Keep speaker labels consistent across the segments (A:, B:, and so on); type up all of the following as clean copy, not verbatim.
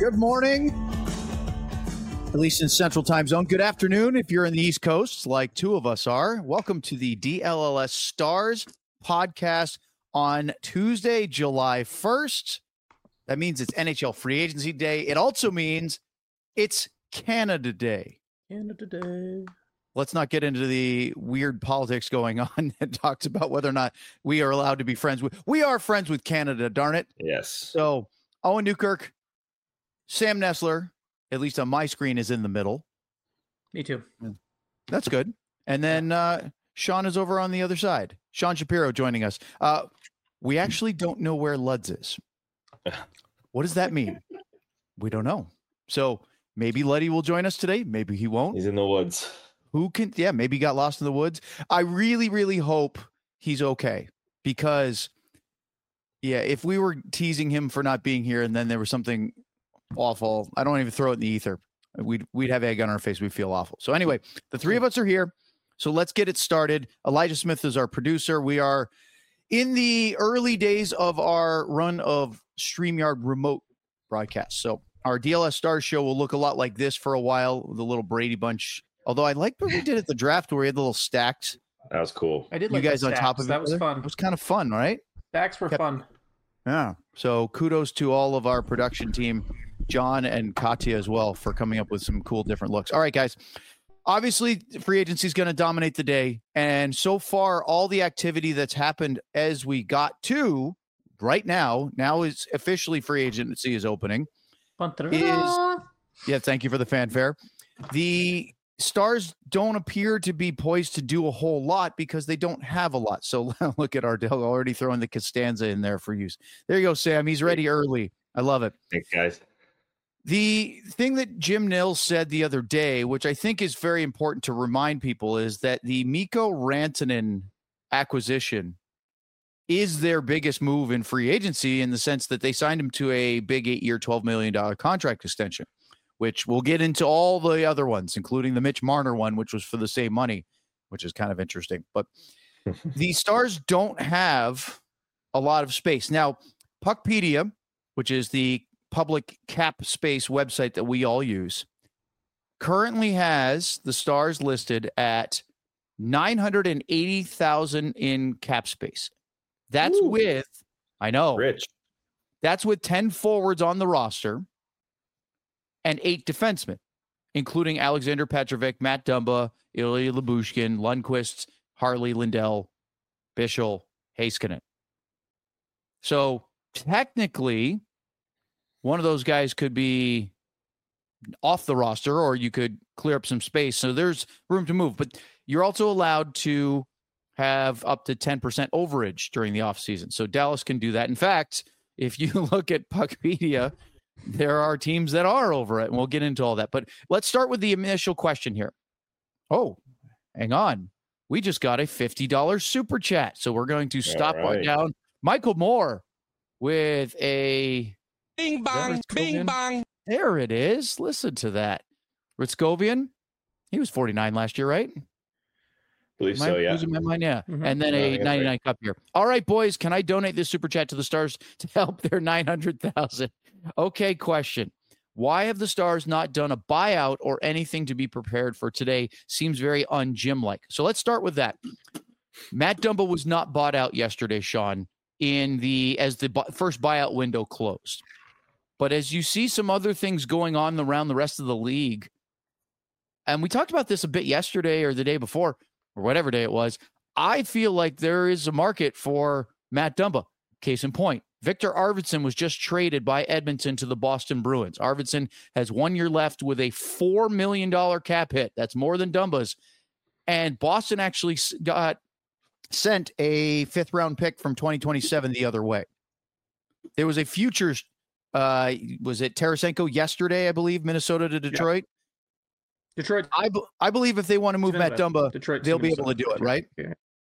A: Good morning, at least in Central Time Zone. Good afternoon if you're in the East Coast, like two of us are. Welcome to the DLLS Stars podcast on Tuesday, July 1st. That means it's NHL Free Agency Day. It also means it's Canada Day.
B: Canada Day.
A: Let's not get into the weird politics going on that talks about whether or not we are allowed to be friends with. We are friends with Canada, darn it.
C: Yes.
A: So, Owen Newkirk, Sam Nessler, at least on my screen, is in the middle.
B: Me too.
A: That's good. And then Sean is over on the other side. Sean Shapiro joining us. We actually don't know where Luds is. What does that mean? We don't know. So maybe Luddy will join us today. Maybe he won't.
C: He's in the woods.
A: Who can? Yeah, maybe he got lost in the woods. I really, really hope he's okay because, yeah, if we were teasing him for not being here and then there was something awful, I don't even throw it in the ether. We'd have egg on our face. We'd feel awful. So anyway, the three of us are here. So let's get it started. Elijah Smith is our producer. We are in the early days of our run of StreamYard remote broadcasts. So our DLS Stars show will look a lot like this for a while with a little Brady Bunch. Although I liked what we did at the draft where we had the little stacked.
C: That was cool.
B: I did
A: You
B: like
A: guys
B: the
A: on
B: stacks.
A: top of
B: that
A: each
B: was
A: other?
B: fun.
A: It was kind of fun, right?
B: Stacks were fun.
A: Yeah. So kudos to all of our production team, John and Katya as well, for coming up with some cool different looks. All right, guys. Obviously, free agency is going to dominate the day. And so far, all the activity that's happened as we got to right now is officially free agency is opening. Yeah, thank you for the fanfare. The Stars don't appear to be poised to do a whole lot because they don't have a lot. So look at Ardell already throwing the Costanza in there for use. There you go, Sam. He's ready early. I love it.
C: Thanks, guys.
A: The thing that Jim Nils said the other day, which I think is very important to remind people, is that the Mikko Rantanen acquisition is their biggest move in free agency in the sense that they signed him to a big 8-year, $12 million contract extension, which we'll get into all the other ones, including the Mitch Marner one, which was for the same money, which is kind of interesting. But the Stars don't have a lot of space. Now, Puckpedia, which is the public cap space website that we all use, currently has the Stars listed at 980,000 in cap space. That's with, I know,
C: Rich.
A: That's with 10 forwards on the roster and 8 defensemen, including Alexander Petrovic, Matt Dumba, Ilya Lyubushkin, Lundqvist, Harley, Lindell, Bischel, Heiskanen. So technically, one of those guys could be off the roster or you could clear up some space. So there's room to move. But you're also allowed to have up to 10% overage during the offseason. So Dallas can do that. In fact, if you look at Puckpedia, there are teams that are over it, and we'll get into all that. But let's start with the initial question here. Oh, hang on. We just got a $50 super chat. So we're going to stop on down. Michael Moore with a
D: bing bang, bing bang.
A: There it is. Listen to that. Ritzkovian, he was 49 last year, right?
C: Believe so, yeah.
A: Losing my mind, yeah.
B: Mm-hmm.
A: And then a 99
C: right.
A: cup here. All right, boys, can I donate this super chat to the Stars to help their 900,000? Okay, question. Why have the Stars not done a buyout or anything to be prepared for today? Seems very un-Jim-like. So let's start with that. Matt Dumba was not bought out yesterday, Sean, as the first buyout window closed. But as you see some other things going on around the rest of the league, and we talked about this a bit yesterday or the day before, or whatever day it was, I feel like there is a market for Matt Dumba. Case in point, Victor Arvidsson was just traded by Edmonton to the Boston Bruins. Arvidsson has 1 year left with a $4 million cap hit. That's more than Dumba's. And Boston actually sent a 5th-round pick from 2027 the other way. There was a futures, was it Tarasenko yesterday, I believe, Minnesota to Detroit?
B: Yeah. Detroit.
A: I believe if they want to move Matt Dumba,
B: Detroit,
A: they'll be able to do it, right?
B: Yeah.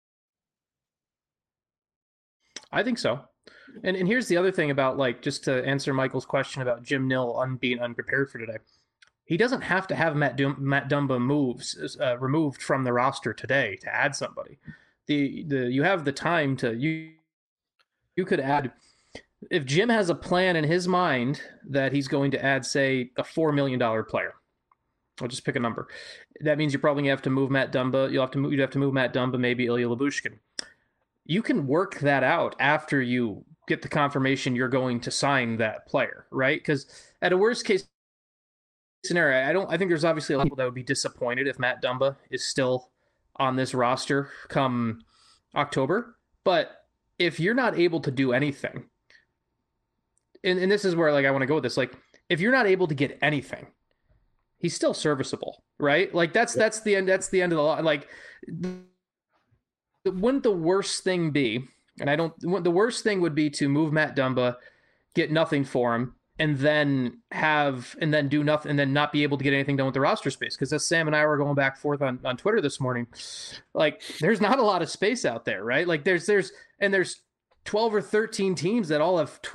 B: I think so. And here's the other thing about, like, just to answer Michael's question about Jim Nill being unprepared for today. He doesn't have to have Matt Dumba removed from the roster today to add somebody. You have the time to you could add if Jim has a plan in his mind that he's going to add, say, a $4 million player, I'll just pick a number. That means you're probably going to have to move Matt Dumba. You'd have to move Matt Dumba, maybe Ilya Lyubushkin. You can work that out after you get the confirmation you're going to sign that player, right? Because at a worst case scenario, I think there's obviously a lot of people that would be disappointed if Matt Dumba is still on this roster come October. But if you're not able to do anything, and this is where like I want to go with this, like if you're not able to get anything, he's still serviceable, right? Like that's the end of the line. Like wouldn't the worst thing be, the worst thing would be to move Matt Dumba, get nothing for him, and then do nothing, and then not be able to get anything done with the roster space. Because as Sam and I were going back and forth on Twitter this morning, like there's not a lot of space out there, right? Like there's 12 or 13 teams that all have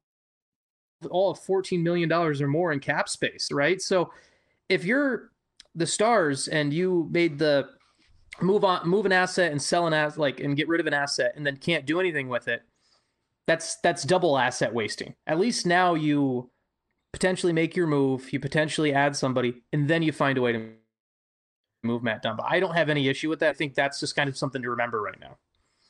B: $14 million or more in cap space, right? So if you're the Stars and you made the move an asset and sell an asset, like, and get rid of an asset and then can't do anything with it, that's double asset wasting. At least now you potentially make your move, you potentially add somebody, and then you find a way to move Matt Dumba. I don't have any issue with that. I think that's just kind of something to remember right now.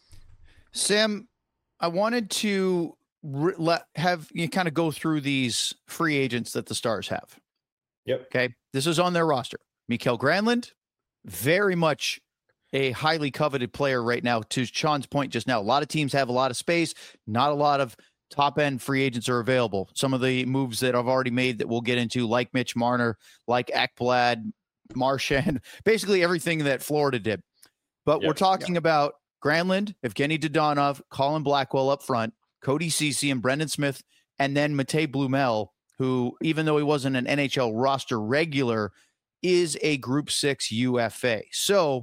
A: Sam, I wanted to have you kind of go through these free agents that the Stars have.
C: Yep.
A: Okay. This is on their roster. Mikael Granlund, very much a highly coveted player right now. To Sean's point just now, a lot of teams have a lot of space. Not a lot of top-end free agents are available. Some of the moves that I've already made that we'll get into, like Mitch Marner, like Ekblad, Marchand, basically everything that Florida did. But we're talking about Granlund, Evgeny Dodonov, Colin Blackwell up front, Cody Ceci and Brendan Smith, and then Matej Blumel, who, even though he wasn't an NHL roster regular, is a Group 6 UFA. So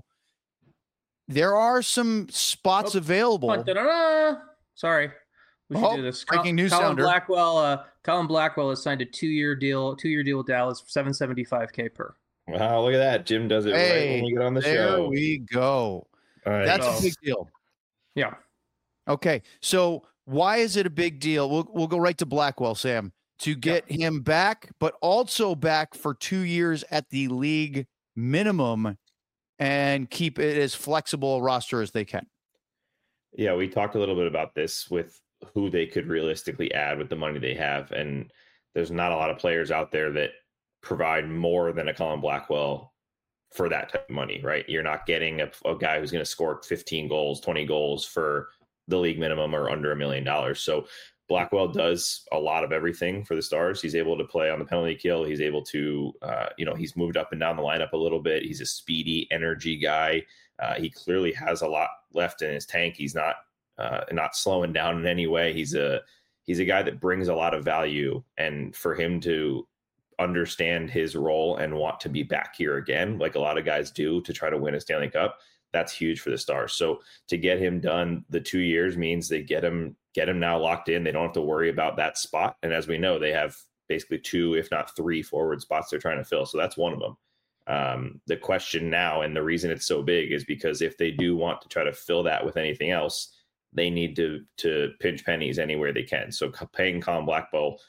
A: there are some spots available.
B: Sorry. We should do this.
A: Breaking news sounder.
B: Colin Blackwell has signed a two-year deal with Dallas for $775K per.
C: Wow, look at that. Jim does it right when we get on the show.
A: There we go.
C: All right.
A: That's a big deal.
B: Yeah.
A: Okay. So why is it a big deal? We'll go right to Blackwell, Sam, to get him back, but also back for 2 years at the league minimum and keep it as flexible a roster as they can.
C: Yeah, we talked a little bit about this with who they could realistically add with the money they have. And there's not a lot of players out there that provide more than a Colin Blackwell for that type of money, right? You're not getting a guy who's going to score 15 goals, 20 goals for the league minimum or under $1 million. So Blackwell does a lot of everything for the Stars. He's able to play on the penalty kill. He's able to, he's moved up and down the lineup a little bit. He's a speedy energy guy. He clearly has a lot left in his tank. He's not slowing down in any way. He's a guy that brings a lot of value, and for him to understand his role and want to be back here again, like a lot of guys do, to try to win a Stanley Cup, that's huge for the Stars. So to get him done, the 2 years means they get him now locked in. They don't have to worry about that spot. And as we know, they have basically 2, if not 3 forward spots they're trying to fill. So that's one of them. The question now, and the reason it's so big, is because if they do want to try to fill that with anything else, they need to pinch pennies anywhere they can. So paying Colin Blackwell,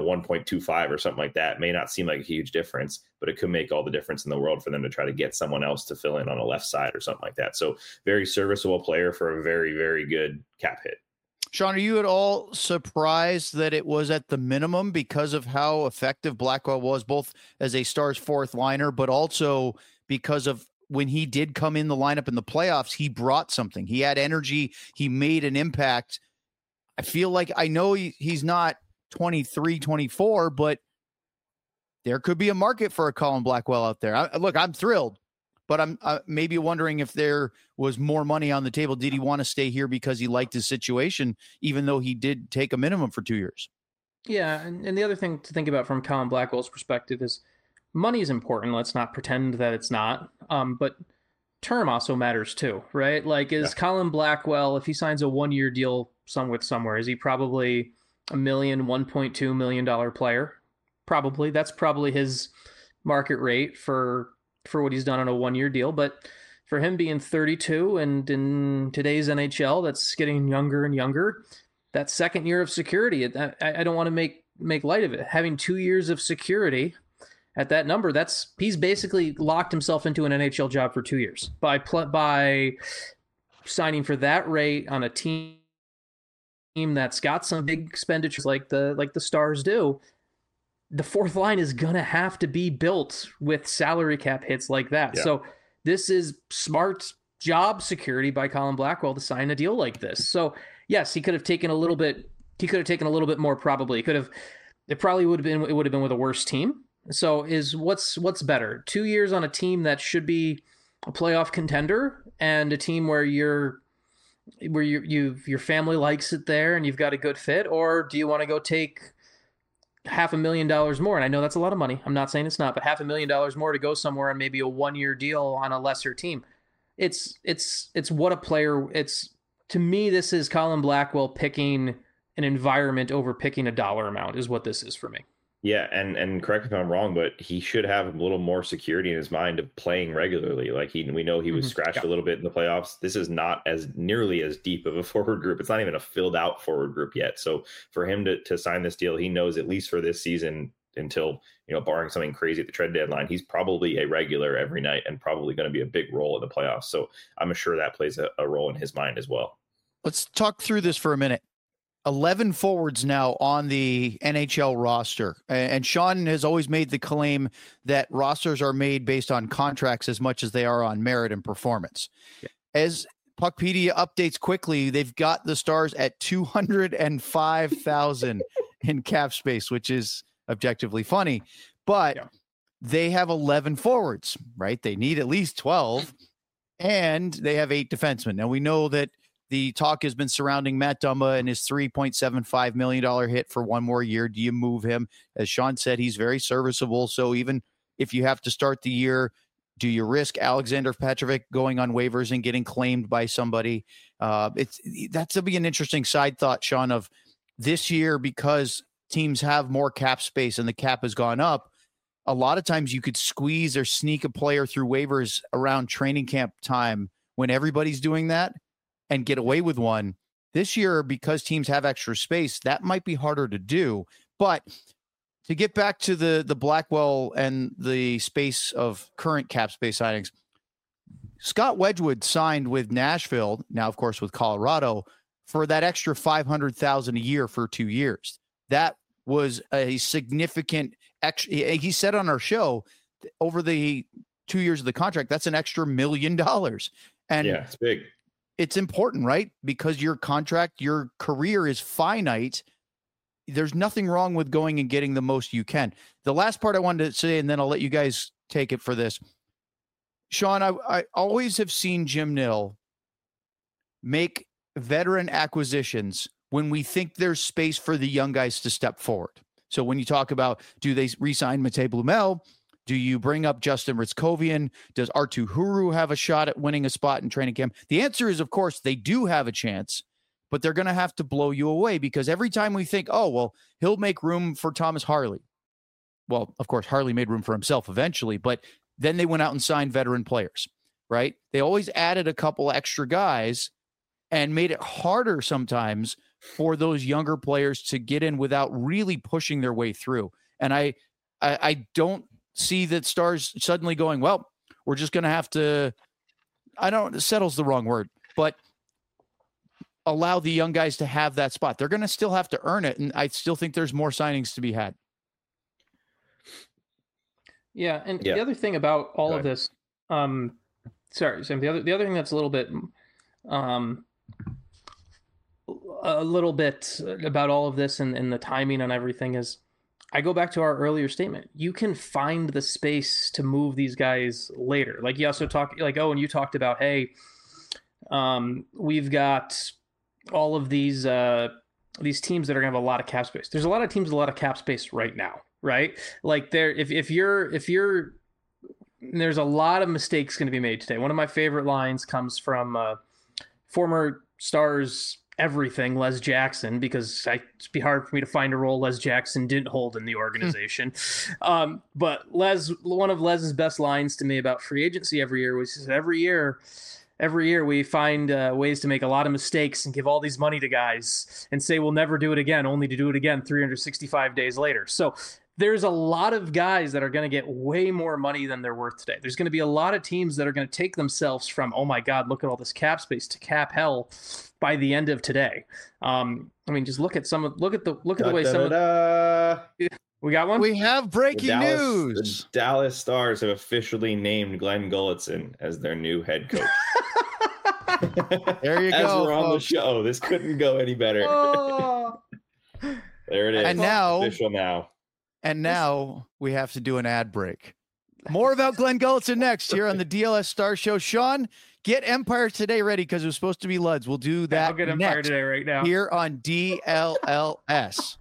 C: 1.25 or something like that may not seem like a huge difference, but it could make all the difference in the world for them to try to get someone else to fill in on a left side or something like that. So very serviceable player for a very, very good cap hit.
A: Sean, are you at all surprised that it was at the minimum because of how effective Blackwell was, both as a Stars fourth liner, but also because of when he did come in the lineup in the playoffs, he brought something. He had energy. He made an impact. I feel like, I know he's not 23, 24, but there could be a market for a Colin Blackwell out there. I'm thrilled, but I'm maybe wondering if there was more money on the table. Did he want to stay here because he liked his situation, even though he did take a minimum for 2 years?
B: Yeah, and the other thing to think about from Colin Blackwell's perspective is money is important. Let's not pretend that it's not. But term also matters too, right? Like, is Colin Blackwell, if he signs a 1 year deal somewhere, is he probably $1.2 million player? Probably. That's probably his market rate for what he's done on a 1 year deal. But for him being 32 and in today's NHL, that's getting younger and younger, that second year of security. I don't want to make light of it. Having 2 years of security at that number, he's basically locked himself into an NHL job for 2 years by signing for that rate on a team that's got some big expenditures like the Stars do. The fourth line is gonna have to be built with salary cap hits like that. Yeah. So this is smart job security by Colin Blackwell to sign a deal like this. So yes, he could have taken a little bit more. Probably it would have been with a worse team. So what's better? 2 years on a team that should be a playoff contender and a team where your family likes it there and you've got a good fit, or do you want to go take $500,000 more? And I know that's a lot of money. I'm not saying it's not, but $500,000 more to go somewhere on maybe a 1-year deal on a lesser team. It's what a player. To me, this is Colin Blackwell picking an environment over picking a dollar amount is what this is for me.
C: Yeah, and correct me if I'm wrong, but he should have a little more security in his mind of playing regularly. Like we know he was scratched a little bit in the playoffs. This is not as nearly as deep of a forward group. It's not even a filled out forward group yet. So for him to sign this deal, he knows at least for this season until, barring something crazy at the trade deadline, he's probably a regular every night and probably going to be a big role in the playoffs. So I'm sure that plays a role in his mind as well.
A: Let's talk through this for a minute. 11 forwards now on the NHL roster. And Sean has always made the claim that rosters are made based on contracts as much as they are on merit and performance. Yeah. As Puckpedia updates quickly, they've got the Stars at 205,000 in cap space, which is objectively funny. But they have 11 forwards, right? They need at least 12, and they have 8 defensemen. Now, we know that the talk has been surrounding Matt Dumba and his $3.75 million hit for 1 more year. Do you move him? As Sean said, he's very serviceable. So even if you have to start the year, do you risk Alexander Petrovic going on waivers and getting claimed by somebody? That's to be an interesting side thought, Sean, of this year, because teams have more cap space and the cap has gone up. A lot of times you could squeeze or sneak a player through waivers around training camp time when everybody's doing that and get away with one. This year, because teams have extra space, that might be harder to do. But to get back to the Blackwell and the space of current cap space signings, Scott Wedgwood signed with Nashville, now of course with Colorado, for that extra $500,000 a year for 2 years. That was a significant extra. He said on our show, over the 2 years of the contract, that's an extra $1 million. And
C: yeah, it's big.
A: It's important, right? Because your contract, your career is finite. There's nothing wrong with going and getting the most you can. The last part I wanted to say, and then I'll let you guys take it for this. Sean, I always have seen Jim Nill make veteran acquisitions when we think there's space for the young guys to step forward. So when you talk about, do they re-sign Matej Blumel? Do you bring up Justin Ritzkovian? Does Arttu Huru have a shot at winning a spot in training camp? The answer is, of course, they do have a chance, but they're going to have to blow you away, because every time we think, oh, well, he'll make room for Thomas Harley. Well, of course, Harley made room for himself eventually, but then they went out and signed veteran players, right? They always added a couple extra guys and made it harder sometimes for those younger players to get in without really pushing their way through. And I don't see that Stars suddenly going, well, we're just going to have to, settle's the wrong word, but allow the young guys to have that spot. They're going to still have to earn it. And I still think there's more signings to be had.
B: Yeah. And the other thing about all of this, sorry, Sam, the other thing that's a little bit about all of this and the timing on everything is, I go back to our earlier statement. You can find the space to move these guys later. Like you also talked, like, and you talked about, hey, we've got all of these teams that are gonna have a lot of cap space. There's a lot of teams with a lot of cap space right now, right? Like if you're there's a lot of mistakes going to be made today. One of my favorite lines comes from former Stars everything Les Jackson, because it'd be hard for me to find a role Les Jackson didn't hold in the organization. But one of Les's best lines to me about free agency every year was, he said, every year Every year we find ways to make a lot of mistakes and give all these money to guys and say we'll never do it again, only to do it again 365 days later. So there's a lot of guys that are going to get way more money than they're worth today. There's going to be a lot of teams that are going to take themselves from, oh my God, look at all this cap space, to cap hell by the end of today. I mean, just look at the way some of we got one.
A: We have breaking news.
C: The Dallas Stars have officially named Glenn Gulletson as their new head coach.
A: There you
C: As
A: go.
C: we're on the show, this couldn't go any better.
B: Oh.
C: There it is.
A: And now,
C: official now.
A: And now we have to do an ad break. More about Glenn Gulletson next here on the DLS Star Show. Sean, get Empire Today ready because it was supposed to be Luds. We'll do that.
B: I'll get Empire Today right now
A: here on DLLS.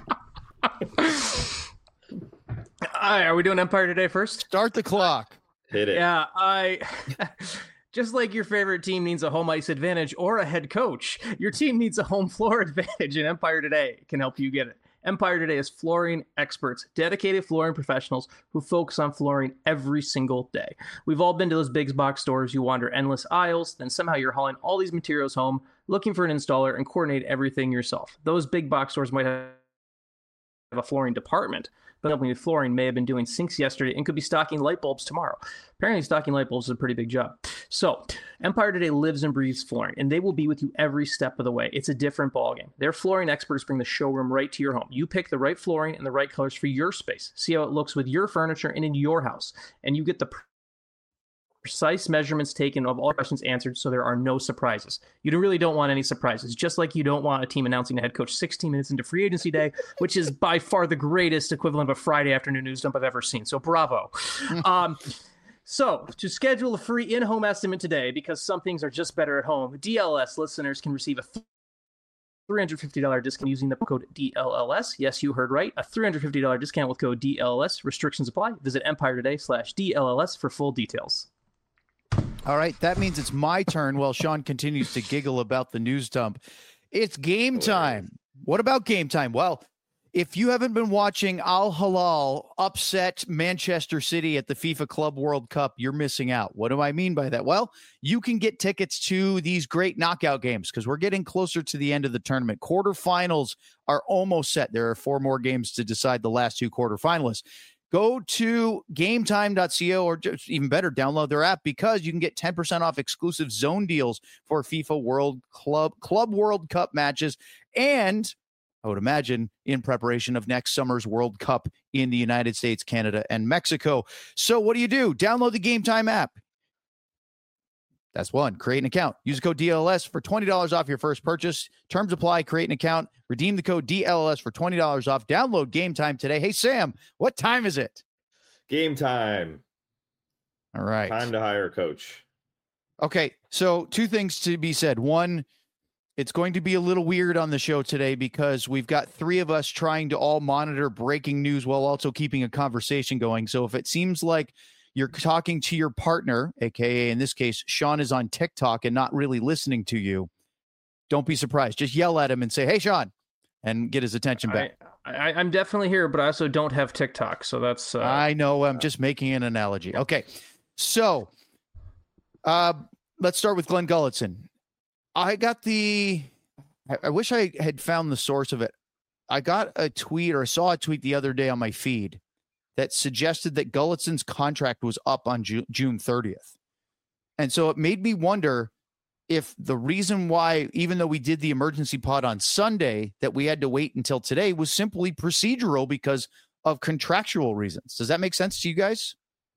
B: Are we doing Empire Today first?
A: Start the clock.
C: Hit it.
B: Yeah, just like your favorite team needs a home ice advantage or a head coach, your team needs a home floor advantage, and Empire Today can help you get it. Empire Today is flooring experts, dedicated flooring professionals who focus on flooring every single day. We've all been to those big box stores. You wander endless aisles, then somehow you're hauling all these materials home, looking for an installer, and coordinate everything yourself. Those big box stores might have a flooring department, but helping with flooring may have been doing sinks yesterday and could be stocking light bulbs tomorrow. Apparently, stocking light bulbs is a pretty big job. So, Empire Today lives and breathes flooring, and they will be with you every step of the way. It's a different ballgame. Their flooring experts bring the showroom right to your home. You pick the right flooring and the right colors for your space. See how it looks with your furniture and in your house, and you get the precise measurements taken of all questions answered, so there are no surprises. You really don't want any surprises, just like you don't want a team announcing a head coach 16 minutes into free agency day, which is by far the greatest equivalent of a Friday afternoon news dump I've ever seen. So bravo. So to schedule a free in-home estimate today, because some things are just better at home, DLS listeners can receive a $350 discount using the code DLLS. Yes, you heard right. A $350 discount with code DLLS. Restrictions apply. Visit EmpireToday.com/DLLS for full details.
A: All right, that means it's my turn while Sean continues to giggle about the news dump. It's game time. What about game time? Well, if you haven't been watching Al Hilal upset Manchester City at the FIFA Club World Cup, you're missing out. What do I mean by that? Well, you can get tickets to these great knockout games because we're getting closer to the end of the tournament. Quarterfinals are almost set. There are 4 more games to decide the last 2 quarterfinalists. Go to gametime.co, or just even better, download their app, because you can get 10% off exclusive zone deals for FIFA Club World Cup matches. And I would imagine in preparation of next summer's World Cup in the United States, Canada, and Mexico. So what do? Download the Game Time app. That's one. Create an account. Use the code DLS for $20 off your first purchase. Terms apply. Create an account. Redeem the code DLS for $20 off. Download Game Time today. Hey, Sam, what time is it?
C: Game time.
A: All right.
C: Time to hire a coach.
A: Okay, so 2 things to be said. One, it's going to be a little weird on the show today because we've got 3 of us trying to all monitor breaking news while also keeping a conversation going. So if it seems like you're talking to your partner, aka in this case, Sean is on TikTok and not really listening to you, don't be surprised. Just yell at him and say, "Hey, Sean," and get his attention back.
B: I'm definitely here, but I also don't have TikTok, so that's.
A: I know. I'm just making an analogy. Okay, so let's start with Glenn Gulletson. I wish I had found the source of it. I got a tweet, or I saw a tweet the other day on my feed that suggested that Gulletson's contract was up on June 30th. And so it made me wonder if the reason why, even though we did the emergency pod on Sunday, that we had to wait until today was simply procedural because of contractual reasons. Does that make sense to you guys?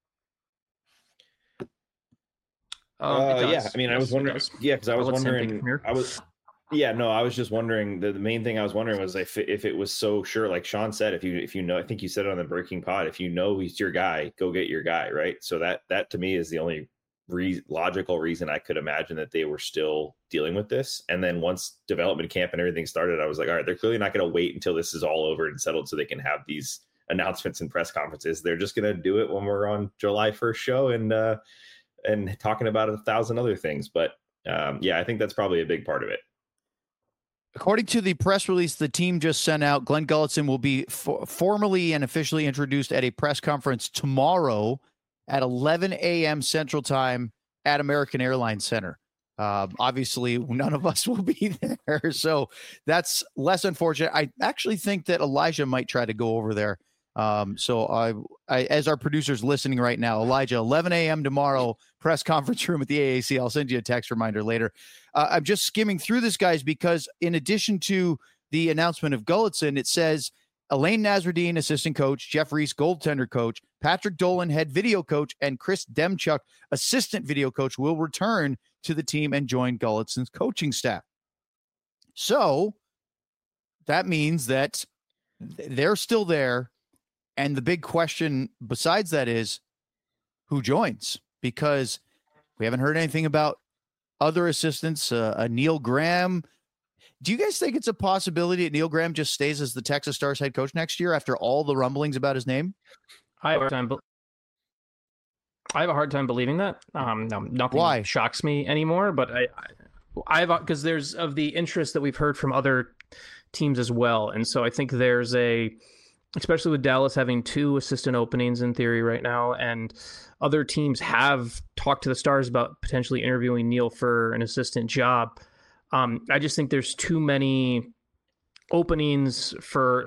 C: Yeah. I mean, I was wondering. Yeah, because I was wondering. I was just wondering. The main thing I was wondering was if it was so sure, like Sean said, if you know, I think you said it on the Breaking Pod, if you know he's your guy, go get your guy, right? So that to me is the only logical reason I could imagine that they were still dealing with this. And then once development camp and everything started, I was like, all right, they're clearly not going to wait until this is all over and settled so they can have these announcements and press conferences. They're just going to do it when we're on July 1st show and talking about 1,000 other things. But yeah, I think that's probably a big part of it.
A: According to the press release the team just sent out, Glenn Gulletson will be formally and officially introduced at a press conference tomorrow at 11 a.m. Central Time at American Airlines Center. Obviously, none of us will be there, so that's less unfortunate. I actually think that Elijah might try to go over there. So I, as our producer's listening right now, Elijah, 11 a.m. tomorrow, press conference room at the AAC. I'll send you a text reminder later. I'm just skimming through this, guys, because in addition to the announcement of Gulutzan, it says Elaine Nasruddin, assistant coach, Jeff Reese, goaltender coach, Patrick Dolan, head video coach, and Chris Demchuk, assistant video coach, will return to the team and join Gulutzan's coaching staff. So that means that they're still there. And the big question besides that is who joins, because we haven't heard anything about other assistants, Neil Graham. Do you guys think it's a possibility that Neil Graham just stays as the Texas Stars head coach next year after all the rumblings about his name?
B: I have a hard time believing that. No, nothing shocks me anymore, but I've because there's of the interest that we've heard from other teams as well. And so I think there's especially with Dallas having 2 assistant openings in theory right now, and other teams have talked to the Stars about potentially interviewing Neil for an assistant job. I just think there's too many openings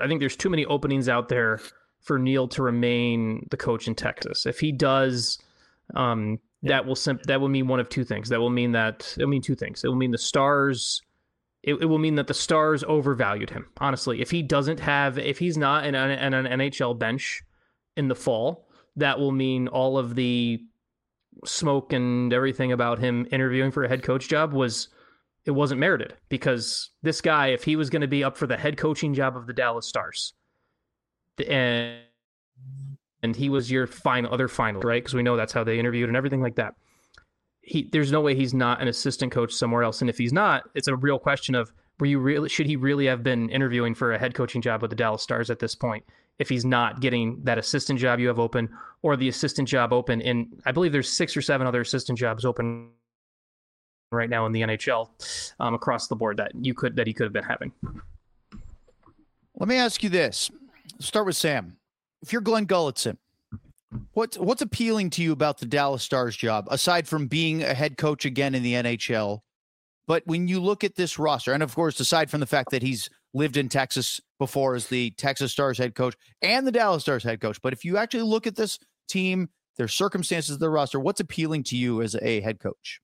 B: out there for Neil to remain the coach in Texas. If he does, that will mean one of two things. It'll mean two things. It will mean the Stars. It will mean that the Stars overvalued him. Honestly, if he's not in an NHL bench in the fall, that will mean all of the smoke and everything about him interviewing for a head coach job wasn't merited, because this guy, if he was going to be up for the head coaching job of the Dallas Stars, and he was your other final, right? Because we know that's how they interviewed and everything like that. There's no way he's not an assistant coach somewhere else. And if he's not, it's a real question of should he really have been interviewing for a head coaching job with the Dallas Stars at this point, if he's not getting that assistant job you have open, or the assistant job open in, I believe there's 6 or 7 other assistant jobs open right now in the NHL across the board that he could have been having.
A: Let me ask you this. Start with Sam. If you're Glenn Gulutzan, what's appealing to you about the Dallas Stars job, aside from being a head coach again in the NHL? But when you look at this roster, and of course, aside from the fact that he's lived in Texas before as the Texas Stars head coach and the Dallas Stars head coach, but if you actually look at this team, their circumstances, their roster, what's appealing to you as a head coach?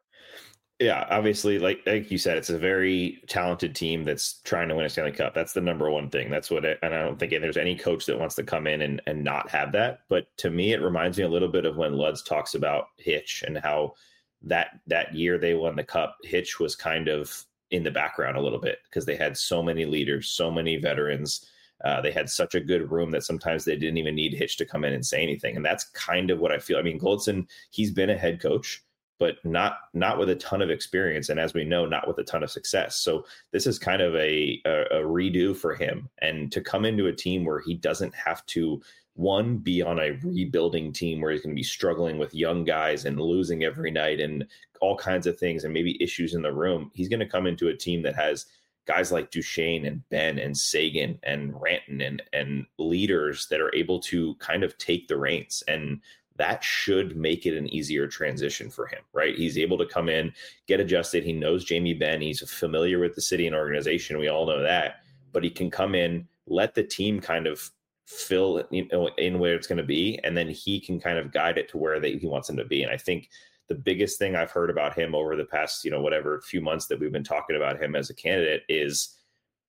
C: Yeah, obviously, like you said, it's a very talented team that's trying to win a Stanley Cup. That's the number one thing. And I don't think there's any coach that wants to come in and not have that. But to me, it reminds me a little bit of when Luds talks about Hitch and how that year they won the Cup, Hitch was kind of in the background a little bit because they had so many leaders, so many veterans. They had such a good room that sometimes they didn't even need Hitch to come in and say anything. And that's kind of what I feel. I mean, Gulutzan, he's been a head coach, but not with a ton of experience. And as we know, not with a ton of success. So this is kind of a redo for him. And to come into a team where he doesn't have to, one, be on a rebuilding team where he's going to be struggling with young guys and losing every night and all kinds of things and maybe issues in the room. He's going to come into a team that has guys like Duchesne and Ben and Sagan and Ranton and leaders that are able to kind of take the reins, and that should make it an easier transition for him, right? He's able to come in, get adjusted. He knows Jamie Benn. He's familiar with the city and organization. We all know that, but he can come in, let the team kind of fill in where it's going to be, and then he can kind of guide it to where he wants them to be. And I think the biggest thing I've heard about him over the past, few months that we've been talking about him as a candidate is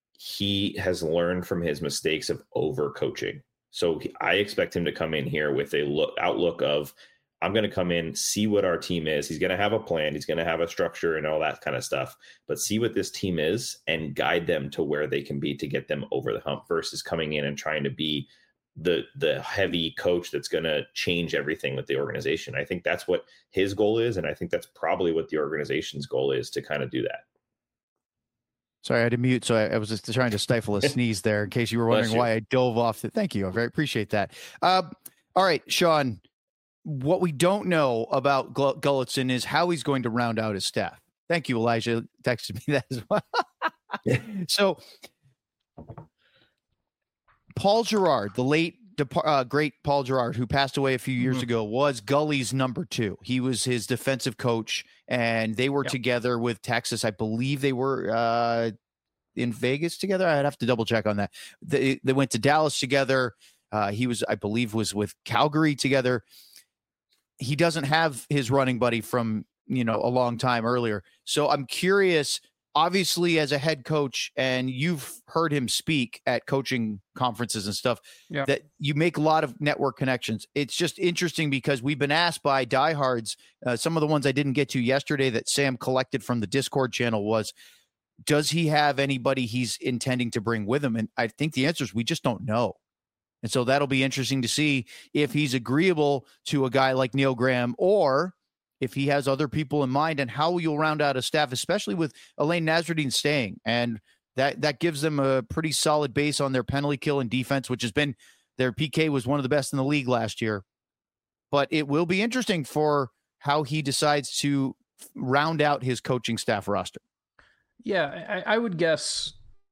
C: he has learned from his mistakes of overcoaching. So I expect him to come in here with a outlook of, I'm going to come in, see what our team is. He's going to have a plan. He's going to have a structure and all that kind of stuff, but see what this team is and guide them to where they can be to get them over the hump versus coming in and trying to be the heavy coach that's going to change everything with the organization. I think that's what his goal is. And I think that's probably what the organization's goal is, to kind of do that.
A: Sorry, I had to mute. So I was just trying to stifle a sneeze there in case you were wondering why I dove off. Thank you. I very appreciate that. All right, Sean, what we don't know about Gulutzan is how he's going to round out his staff. Thank you, Elijah. Texted me that as well. So Paul Gerard, the late great Paul Gerard, who passed away a few years ago, was Gully's number 2. He was his defensive coach, and they were together with Texas. I believe they were in Vegas together. I'd have to double check on that. They went to Dallas together. He was, I believe, was with Calgary together. He doesn't have his running buddy from, a long time earlier. So I'm curious, obviously, as a head coach, and you've heard him speak at coaching conferences and stuff, that you make a lot of network connections. It's just interesting because we've been asked by diehards, some of the ones I didn't get to yesterday that Sam collected from the Discord channel was, does he have anybody he's intending to bring with him? And I think the answer is we just don't know. And so that'll be interesting to see if he's agreeable to a guy like Neil Graham, or if he has other people in mind, and how you'll round out a staff, especially with Elaine Nasruddin staying. And that gives them a pretty solid base on their penalty kill and defense, which has been, their PK was one of the best in the league last year. But it will be interesting for how he decides to round out his coaching staff roster.
B: Yeah, I would guess,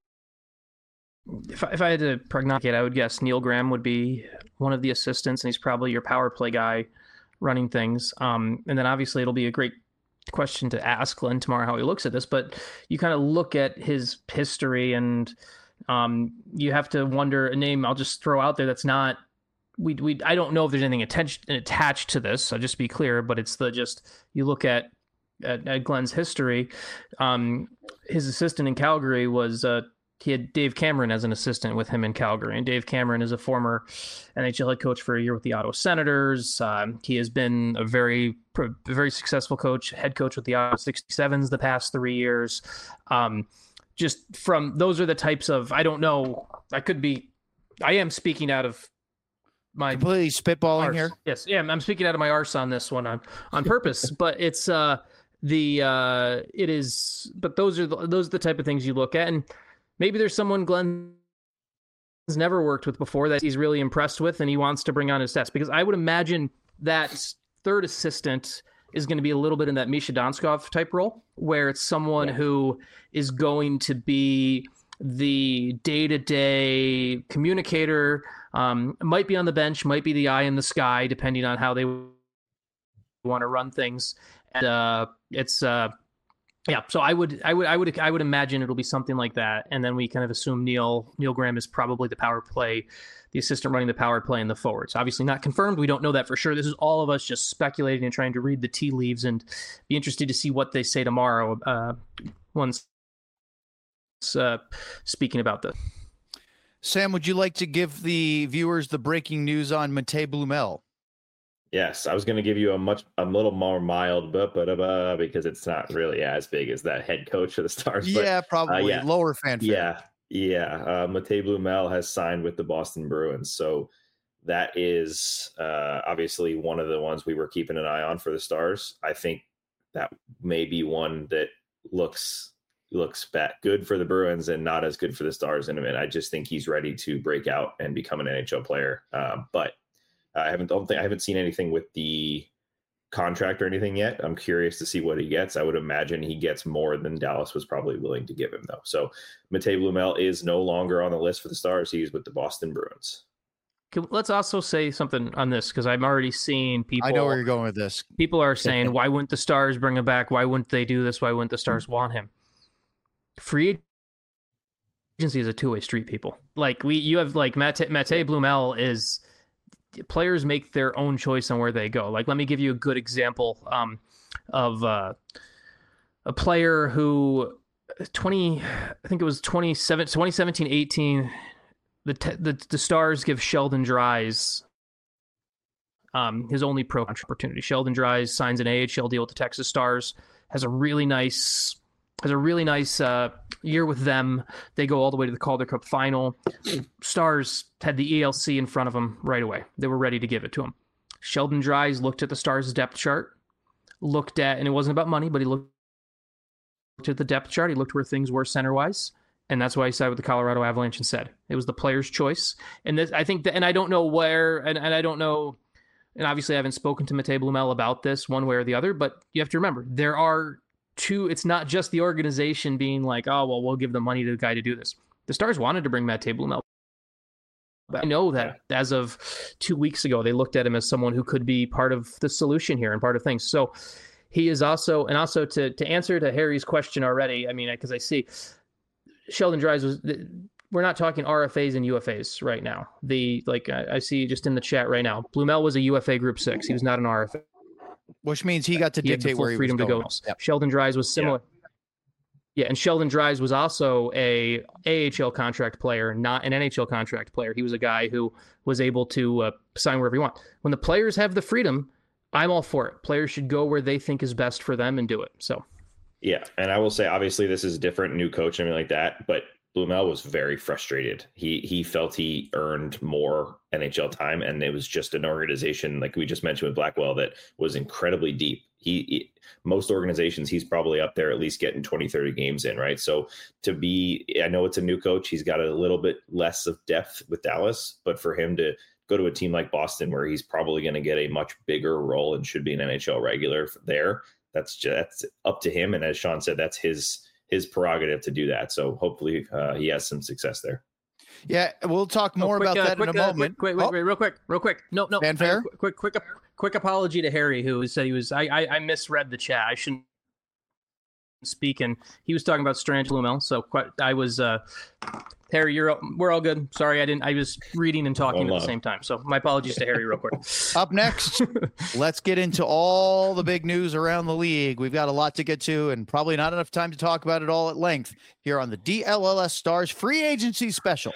B: if I had to prognosticate, I would guess Neil Graham would be one of the assistants, and he's probably your power play guy running things. And then obviously it'll be a great question to ask Glenn tomorrow how he looks at this, but you kind of look at his history, and you have to wonder a name I'll just throw out there that's not, I don't know if there's anything attached to this, so just be clear, but it's you look at Glenn's history. His assistant in Calgary was he had Dave Cameron as an assistant with him in Calgary, and Dave Cameron is a former NHL head coach for a year with the Ottawa Senators. He has been a very successful head coach with the Ottawa 67s the past 3 years. Just from, those are the types of, I don't know, I am speaking out of my
A: completely spitballing
B: arse
A: here.
B: Yes, yeah, I'm speaking out of my arse on this one on purpose, but it's it is. But those are the type of things you look at, and maybe there's someone Glenn's never worked with before that he's really impressed with, and he wants to bring on his desk, because I would imagine that third assistant is going to be a little bit in that Misha Donskov type role, where it's someone who is going to be the day-to-day communicator, might be on the bench, might be the eye in the sky, depending on how they want to run things. And so I would imagine it'll be something like that. And then we kind of assume Neil Graham is probably the assistant running the power play in the forwards. Obviously not confirmed. We don't know that for sure. This is all of us just speculating and trying to read the tea leaves, and be interested to see what they say tomorrow. Once speaking about this.
A: Sam, would you like to give the viewers the breaking news on Matej Blumel?
C: Yes, I was going to give you a little more mild, because it's not really as big as that head coach of the Stars.
A: Yeah,
C: but,
A: probably lower fanfare.
C: Yeah. Matej Blumel has signed with the Boston Bruins, so that is obviously one of the ones we were keeping an eye on for the Stars. I think that may be one that looks good for the Bruins and not as good for the Stars in a minute. I just think he's ready to break out and become an NHL player, but I haven't seen anything with the contract or anything yet. I'm curious to see what he gets. I would imagine he gets more than Dallas was probably willing to give him, though. So Matej Blumel is no longer on the list for the Stars. He's with the Boston Bruins.
B: Let's also say something on this, because I'm already seeing people.
A: I know where you're going with this.
B: People are saying, why wouldn't the Stars bring him back? Why wouldn't they do this? Why wouldn't the Stars want him? Free agency is a two-way street, people. You have Matej Blumel is. Players make their own choice on where they go. Let me give you a good example of a player who 2017-18, the Stars give Sheldon Dries his only pro opportunity. Sheldon Dries signs an AHL deal with the Texas Stars, has a really nice year with them. They go all the way to the Calder Cup final. Stars had the ELC in front of them right away. They were ready to give it to him. Sheldon Dries looked at the Stars' depth chart, and it wasn't about money, but he looked at the depth chart. He looked where things were center-wise, and that's why he sided with the Colorado Avalanche and said it was the player's choice. And this, I think that, and I don't know where, and I don't know, and obviously I haven't spoken to Matej Blumel about this one way or the other, but you have to remember, there are it's not just the organization being like, oh, well, we'll give the money to the guy to do this. The Stars wanted to bring Matej Blumel I know that as of 2 weeks ago, they looked at him as someone who could be part of the solution here and part of things. So he is also, and also to answer to Harry's question already, I mean, because I see Sheldon Dries we're not talking RFAs and UFAs right now. I see just in the chat right now, Blumel was a UFA Group 6. He was not an RFA.
A: Which means he got to dictate where he was going.
B: Yep. Sheldon Dries was similar. Yeah, and Sheldon Dries was also a AHL contract player, not an NHL contract player. He was a guy who was able to sign wherever he wants. When the players have the freedom, I'm all for it. Players should go where they think is best for them and do it. So,
C: yeah, and I will say, obviously, this is different, new coach, and everything like that, but Blumel was very frustrated. He felt he earned more NHL time, and it was just an organization, like we just mentioned with Blackwell, that was incredibly deep. Most organizations, he's probably up there at least getting 20, 30 games in, right? So I know it's a new coach. He's got a little bit less of depth with Dallas, but for him to go to a team like Boston, where he's probably going to get a much bigger role and should be an NHL regular there, that's up to him. And as Sean said, that's his prerogative to do that. So hopefully he has some success there.
A: Yeah, we'll talk more about that in a moment.
B: Wait, real quick. No.
A: Fanfare?
B: Quick apology to Harry, who said he was. I misread the chat. I shouldn't speak, and he was talking about Strange Blumel. So I was Harry. We're all good. Sorry, I didn't. I was reading and talking at the same time. So my apologies to Harry, real quick.
A: Up next, let's get into all the big news around the league. We've got a lot to get to, and probably not enough time to talk about it all at length here on the DLLS Stars Free Agency Special.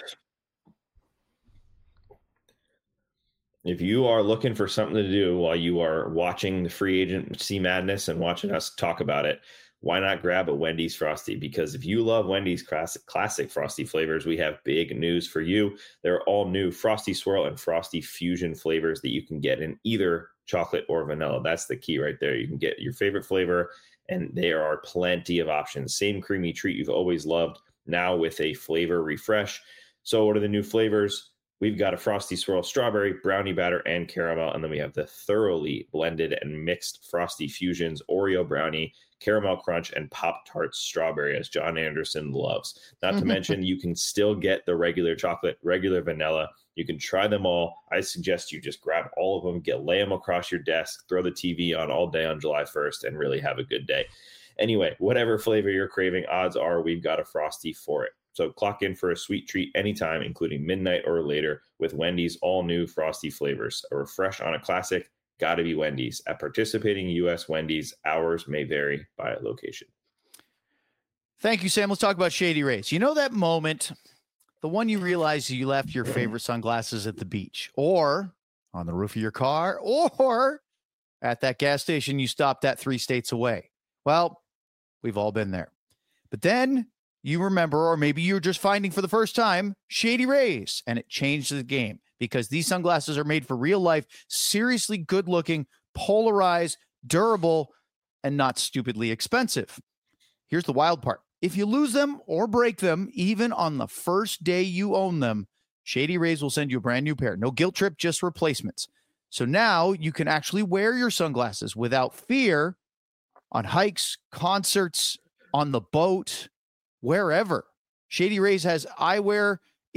C: If you are looking for something to do while you are watching the free agency madness and watching us talk about it, why not grab a Wendy's Frosty? Because if you love Wendy's classic Frosty flavors, we have big news for you. They're all new Frosty Swirl and Frosty Fusion flavors that you can get in either chocolate or vanilla. That's the key right there. You can get your favorite flavor, and there are plenty of options. Same creamy treat you've always loved, now with a flavor refresh. So what are the new flavors? We've got a Frosty Swirl strawberry, brownie batter, and caramel. And then we have the thoroughly blended and mixed Frosty Fusions, Oreo brownie, caramel crunch, and Pop-Tarts strawberry, as John Anderson loves. Not to mention, you can still get the regular chocolate, regular vanilla. You can try them all. I suggest you just grab all of them, lay them across your desk, throw the TV on all day on July 1st, and really have a good day. Anyway, whatever flavor you're craving, odds are we've got a Frosty for it. So clock in for a sweet treat anytime, including midnight or later, with Wendy's all-new Frosty flavors. A refresh on a classic, gotta be Wendy's. At participating U.S. Wendy's, hours may vary by location.
A: Thank you, Sam. Let's talk about Shady Rays. You know that moment, the one you realize you left your favorite sunglasses at the beach, or on the roof of your car, or at that gas station you stopped at 3 states away. Well, we've all been there. But then you remember, or maybe you're just finding for the first time, Shady Rays, and it changed the game because these sunglasses are made for real life, seriously good looking, polarized, durable, and not stupidly expensive. Here's the wild part. If you lose them or break them, even on the first day you own them, Shady Rays will send you a brand new pair. No guilt trip, just replacements. So now you can actually wear your sunglasses without fear on hikes, concerts, on the boat, wherever. Shady Rays is eyewear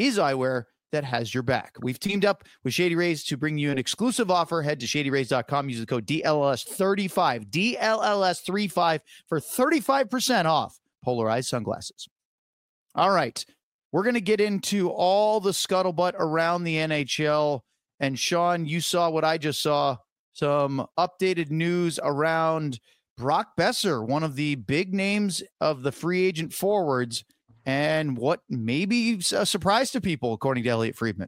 A: that has your back. We've teamed up with Shady Rays to bring you an exclusive offer. Head to shadyrays.com. Use the code DLLS35, DLLS35 for 35% off polarized sunglasses. All right. We're going to get into all the scuttlebutt around the NHL. And Sean, you saw what I just saw. Some updated news around Brock Boeser, one of the big names of the free agent forwards, and what may be a surprise to people, according to Elliot Friedman.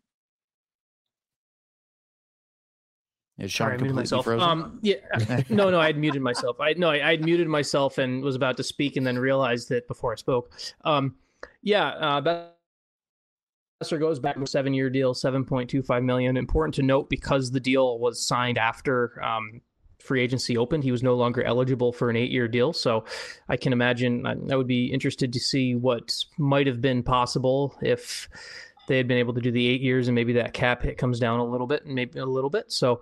A: Is Sean completely frozen?
B: No, I had muted myself. I had muted myself and was about to speak and then realized that before I spoke. Boeser goes back to a 7-year deal, $7.25 million. Important to note because the deal was signed after free agency opened, he was no longer eligible for an 8-year deal. So I can imagine I would be interested to see what might have been possible if they had been able to do the 8 years and maybe that cap hit comes down a little bit. So,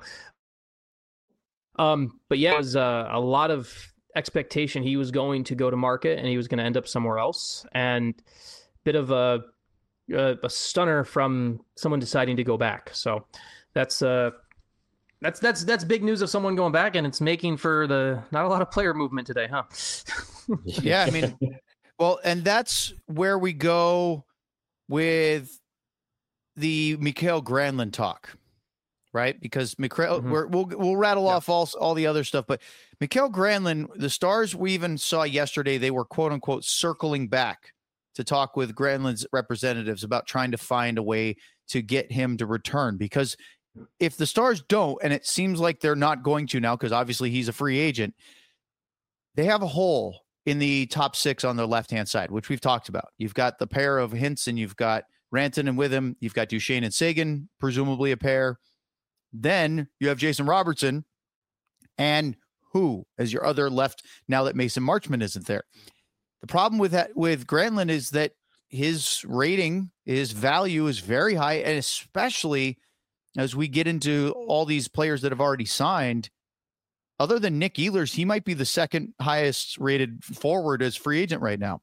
B: but yeah, it was a lot of expectation he was going to go to market and he was going to end up somewhere else. And bit of a a stunner from someone deciding to go back. So that's big news of someone going back, and it's making for not a lot of player movement today, huh?
A: Yeah, I mean, well, and that's where we go with the Mikael Granlund talk, right? Because Mikael, we'll rattle off all the other stuff, but Mikael Granlund, the Stars, we even saw yesterday, they were quote unquote circling back to talk with Granlund's representatives about trying to find a way to get him to return. Because if the Stars don't, and it seems like they're not going to now, because obviously he's a free agent, they have a hole in the top 6 on their left-hand side, which we've talked about. You've got the pair of Hintz, and you've got Rantanen and with him. You've got Duchesne and Sagan, presumably a pair. Then you have Jason Robertson and who as your other left now that Mason Marchment isn't there. The problem with Granlund is that his rating, his value is very high, and especially as we get into all these players that have already signed, other than Nick Ehlers, he might be the second highest rated forward as free agent right now.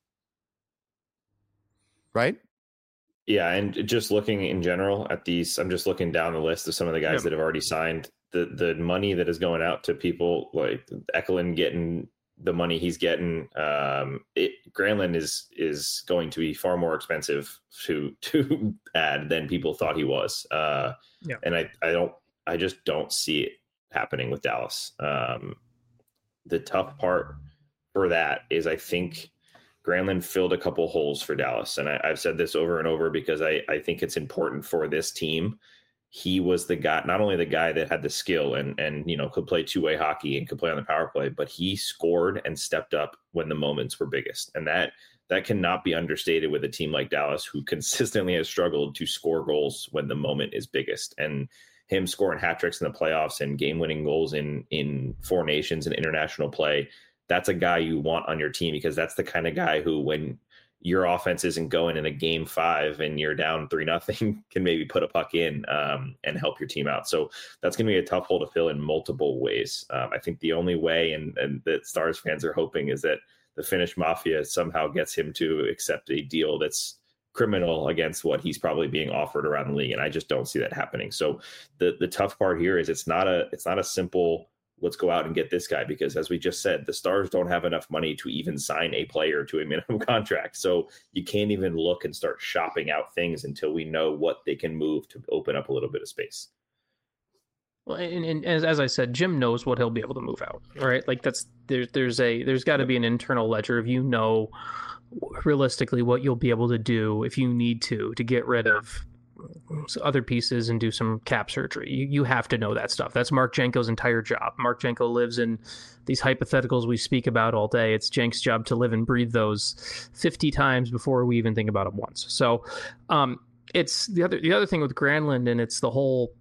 A: Right?
C: Yeah, and just looking in general at these, I'm just looking down the list of some of the guys that have already signed. The money that is going out to people like Ekelund getting the money he's getting, Granlund is going to be far more expensive to add than people thought he was. And I just don't see it happening with Dallas. The tough part for that is I think Granlund filled a couple holes for Dallas. And I've said this over and over because I think it's important for this team. He was the guy, not only the guy that had the skill and could play two-way hockey and could play on the power play, but he scored and stepped up when the moments were biggest. And that cannot be understated with a team like Dallas, who consistently has struggled to score goals when the moment is biggest. And him scoring hat tricks in the playoffs and game-winning goals in Four Nations and international play, that's a guy you want on your team, because that's the kind of guy who, when your offense isn't going in a game 5 and you're down 3-0, can maybe put a puck in and help your team out. So that's going to be a tough hole to fill in multiple ways. I think the only way, and that Stars fans are hoping, is that the Finnish mafia somehow gets him to accept a deal that's criminal against what he's probably being offered around the league. And I just don't see that happening. So the tough part here is it's not a simple, let's go out and get this guy, because as we just said, the Stars don't have enough money to even sign a player to a minimum contract. So you can't even look and start shopping out things until we know what they can move to open up a little bit of space.
B: Well, and as I said, Jim knows what he'll be able to move out, right? Like there's got to be an internal ledger of, realistically what you'll be able to do if you need to get rid of other pieces and do some cap surgery. You have to know that stuff. That's Mark Jenko's entire job. Mark Jenko lives in these hypotheticals we speak about all day. It's Jenk's job to live and breathe those 50 times before we even think about them once. So it's the other thing with Granlund, and it's the whole,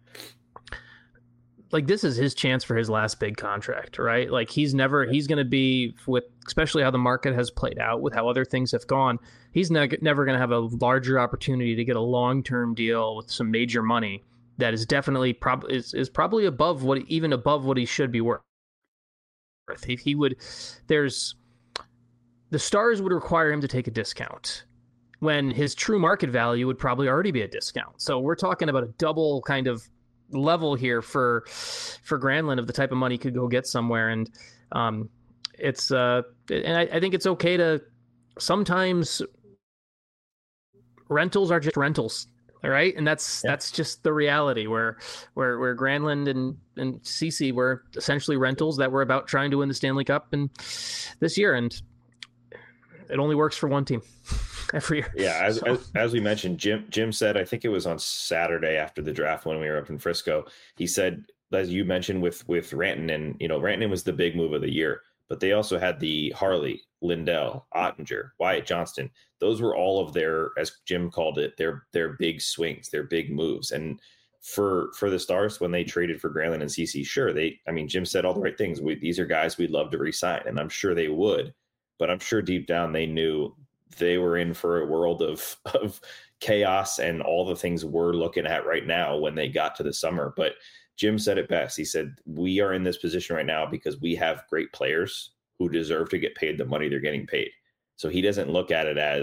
B: like, this is his chance for his last big contract, right? Like he's going to be, with especially how the market has played out, with how other things have gone, he's never going to have a larger opportunity to get a long-term deal with some major money that is definitely is probably above what he should be worth. If he would, the Stars would require him to take a discount when his true market value would probably already be a discount. So we're talking about a double kind of level here for Granlund of the type of money he could go get somewhere. And it's and I think it's okay to sometimes rentals are just rentals, all right? And that's just the reality where Granlund and Ceci were essentially rentals that were about trying to win the Stanley Cup and this year, and it only works for one team every year.
C: Yeah, as we mentioned, Jim said, I think it was on Saturday after the draft when we were up in Frisco, he said, as you mentioned with Rantanen, Rantanen was the big move of the year, but they also had the Harley, Lindell, Ottinger, Wyatt Johnston. Those were all of their, as Jim called it, their big swings, their big moves. And for the Stars, when they traded for Granlund and Ceci, sure, Jim said all the right things. These are guys we'd love to re-sign, and I'm sure they would, but I'm sure deep down they knew they were in for a world of chaos and all the things we're looking at right now when they got to the summer. But Jim said it best. He said, we are in this position right now because we have great players who deserve to get paid the money they're getting paid. So he doesn't look at it as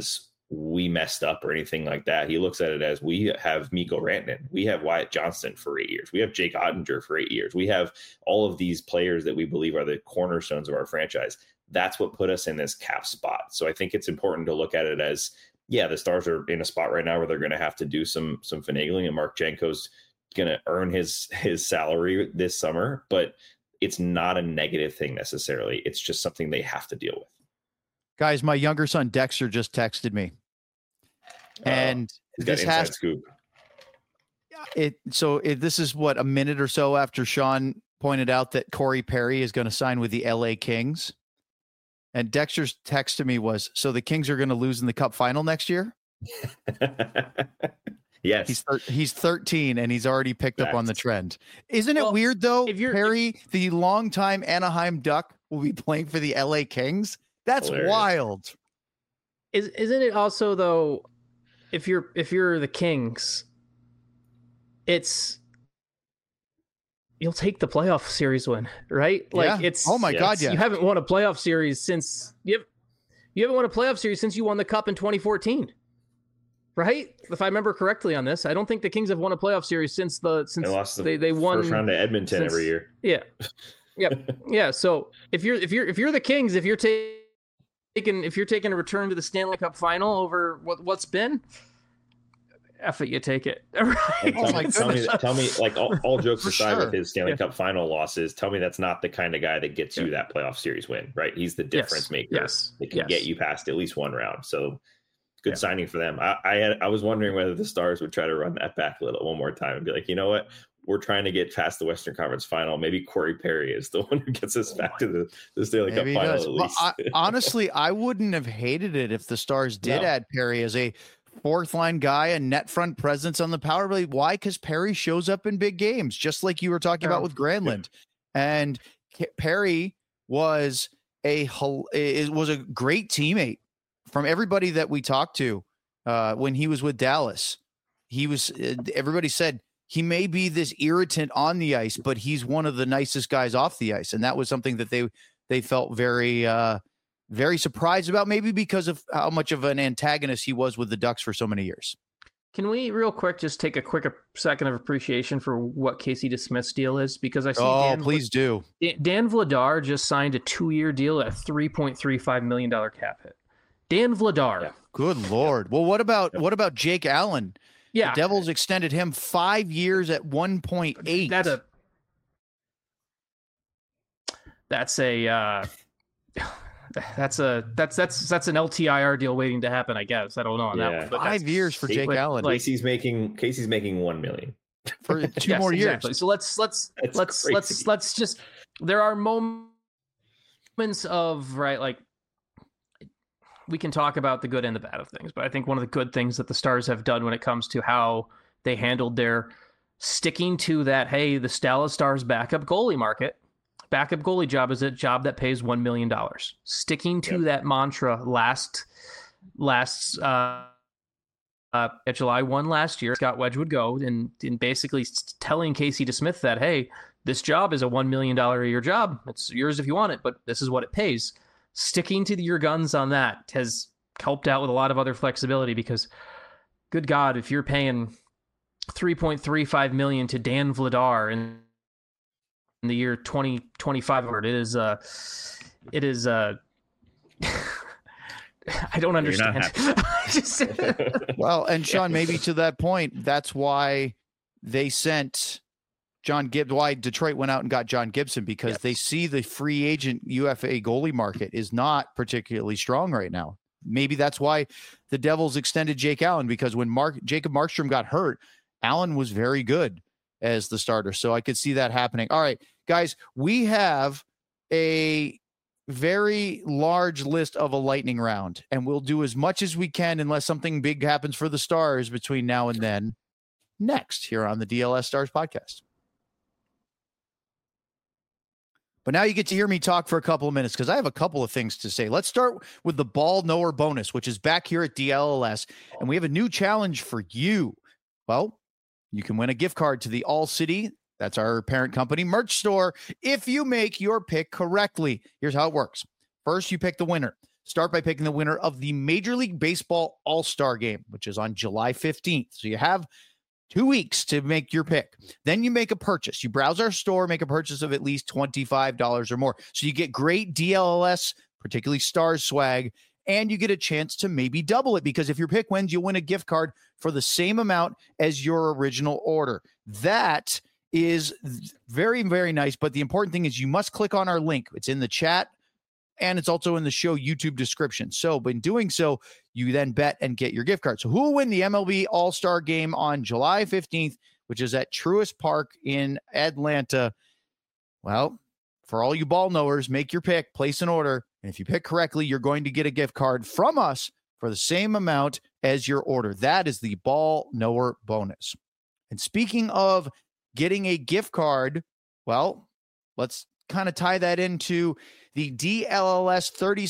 C: we messed up or anything like that. He looks at it as we have Mikko Rantanen, we have Wyatt Johnston for 8 years, we have Jake Ottinger for 8 years, we have all of these players that we believe are the cornerstones of our franchise. That's what put us in this cap spot. So I think it's important to look at it as, yeah, the Stars are in a spot right now where they're going to have to do some finagling, and Mark Janko's going to earn his salary this summer, but it's not a negative thing necessarily. It's just something they have to deal with.
A: Guys, my younger son Dexter just texted me, and
C: this has scoop.
A: This is what, a minute or so after Sean pointed out that Corey Perry is going to sign with the LA Kings. And Dexter's text to me was, so the Kings are going to lose in the Cup final next year?
C: Yes.
A: He's 13 and he's already picked up on the trend. Isn't it weird, though? Perry, the longtime Anaheim Duck, will be playing for the LA Kings? That's hilarious. Wild.
B: Isn't it also, though, if you're the Kings, you'll take the playoff series win, right? Like it's, oh my God, yeah. You haven't won a playoff series since you haven't won a playoff series since you won the Cup in 2014, right? If I remember correctly on this, I don't think the Kings have won a playoff series since they won
C: first round to Edmonton every year.
B: Yeah, yeah. So if you're the Kings, if you're taking a return to the Stanley Cup final over what's been. F it, you take it. Right?
C: Tell me, like all jokes aside, with his Stanley Cup final losses, tell me that's not the kind of guy that gets you that playoff series win, right? He's the difference maker.
B: Yes.
C: That can get you past at least one round. So good signing for them. I was wondering whether the Stars would try to run that back one more time and be like, you know what? We're trying to get past the Western Conference final. Maybe Corey Perry is the one who gets us back to the Stanley Cup final at least.
A: Well, honestly, I wouldn't have hated it if the Stars did add Perry as a fourth line guy, a net front presence on the power play. Why? Because Perry shows up in big games, just like you were talking about with Granlund. And Perry was a great teammate from everybody that we talked to when he was with Dallas. Everybody said he may be this irritant on the ice, but he's one of the nicest guys off the ice. And that was something that they felt very surprised about, maybe because of how much of an antagonist he was with the Ducks for so many years.
B: Can we real quick just take a quick second of appreciation for what Casey DeSmith's deal is? Because I see
A: please do.
B: Dan Vladar just signed a 2-year deal at a $3.35 million cap hit. Dan Vladar. Yeah.
A: Good Lord. Well, what about Jake Allen?
B: Yeah.
A: The Devils extended him 5 years at 1.8.
B: That's an LTIR deal waiting to happen, I guess. I don't know on that one. But
A: 5 years for Jake Allen.
C: Casey's making $1 million
A: for 2 more years.
B: Exactly. So let's just, there are moments of, right, like, we can talk about the good and the bad of things, but I think one of the good things that the Stars have done when it comes to how they handled their sticking to that, hey, the Dallas Stars backup goalie job is a job that pays $1 million. Sticking to that mantra at July 1 last year, Scott Wedgwood go and basically telling Casey DeSmith that, hey, this job is a $1 million a year job. It's yours if you want it, but this is what it pays. Sticking to your guns on that has helped out with a lot of other flexibility, because good God, if you're paying $3.35 million to Dan Vladar in the year 2025, it is I don't understand.
A: Well, and Sean, maybe to that point, that's why they sent John Gibbs, why Detroit went out and got John Gibson, because they see the free agent UFA goalie market is not particularly strong right now. Maybe that's why the Devils extended Jake Allen, because when Jacob Markstrom got hurt, Allen was very good as the starter. So I could see that happening. All right, guys, we have a very large list of a lightning round, and we'll do as much as we can unless something big happens for the Stars between now and then, next here on the DLS Stars podcast. But now you get to hear me talk for a couple of minutes, because I have a couple of things to say. Let's start with the Ball Knower bonus, which is back here at DLS, and we have a new challenge for you. Well, you can win a gift card to the All City, that's our parent company, merch store, if you make your pick correctly. Here's how it works. First, you pick the winner. Start by picking the winner of the Major League Baseball All-Star Game, which is on July 15th. So you have 2 weeks to make your pick. Then you make a purchase. You browse our store, make a purchase of at least $25 or more. So you get great DLLS, particularly Stars swag, and you get a chance to maybe double it, because if your pick wins, you'll win a gift card for the same amount as your original order. That is very, very nice. But the important thing is you must click on our link. It's in the chat, and it's also in the show YouTube description. So in doing so, you then bet and get your gift card. So who will win the MLB All-Star Game on July 15th, which is at Truist Park in Atlanta? Well, for all you ball knowers, make your pick, place an order, and if you pick correctly, you're going to get a gift card from us for the same amount as your order. That is the ball knower bonus. And speaking of getting a gift card, well, let's kind of tie that into the DLLS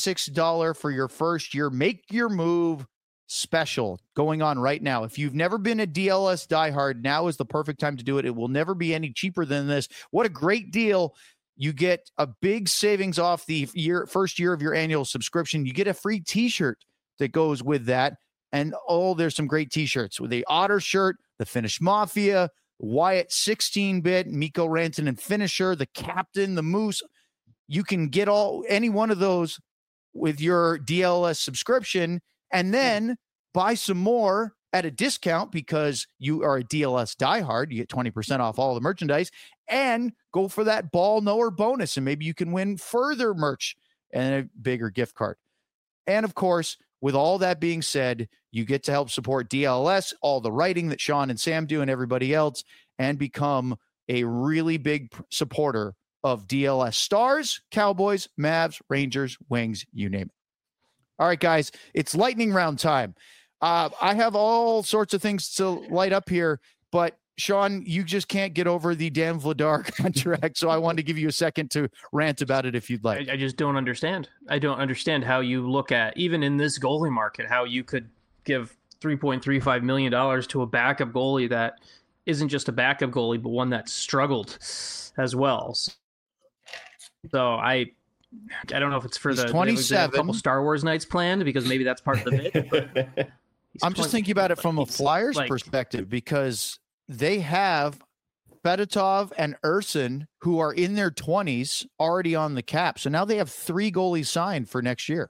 A: $36 for your first year. Make your move special going on right now. If you've never been a DLS diehard, now is the perfect time to do it. It will never be any cheaper than this. What a great deal. You get a big savings off the first year of your annual subscription. You get a free t-shirt that goes with that. And there's some great t-shirts with the Otter shirt, the Finnish Mafia, Wyatt 16-bit, Mikko Rantanen finisher, the Captain, the Moose. You can get any one of those with your DLS subscription, and then buy some more at a discount because you are a DLS diehard. You get 20% off all the merchandise, and go for that ball knower bonus, and maybe you can win further merch and a bigger gift card. And of course, with all that being said, you get to help support DLS, all the writing that Sean and Sam do and everybody else, and become a really big supporter of DLS Stars, Cowboys, Mavs, Rangers, Wings, you name it. All right, guys, it's lightning round time. I have all sorts of things to light up here, but Sean, you just can't get over the Dan Vladar contract, so I wanted to give you a second to rant about it if you'd like.
B: I just don't understand. I don't understand how you look at, even in this goalie market, how you could give $3.35 million to a backup goalie that isn't just a backup goalie, but one that struggled as well. So I don't know if it's for the
A: 27.
B: A couple Star Wars nights planned, because maybe that's part of the bid. But
A: I'm just thinking about it from a Flyers perspective, because they have Fedotov and Urson, who are in their 20s, already on the cap. So now they have 3 goalies signed for next year.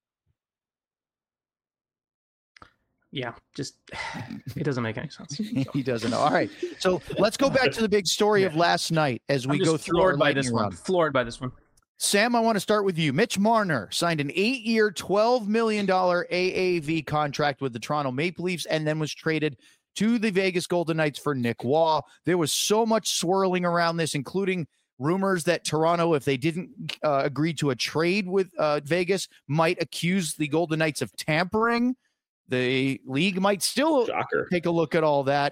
B: Yeah, just it doesn't make any sense. So.
A: He doesn't know. All right, so let's go back to the big story of last night as we go through our lightning round.
B: Floored by this one.
A: Sam, I want to start with you. Mitch Marner signed an 8-year, $12 million AAV contract with the Toronto Maple Leafs, and then was traded to the Vegas Golden Knights for Nick Waugh. There was so much swirling around this, including rumors that Toronto, if they didn't agree to a trade with Vegas, might accuse the Golden Knights of tampering. The league might still take a look at all that.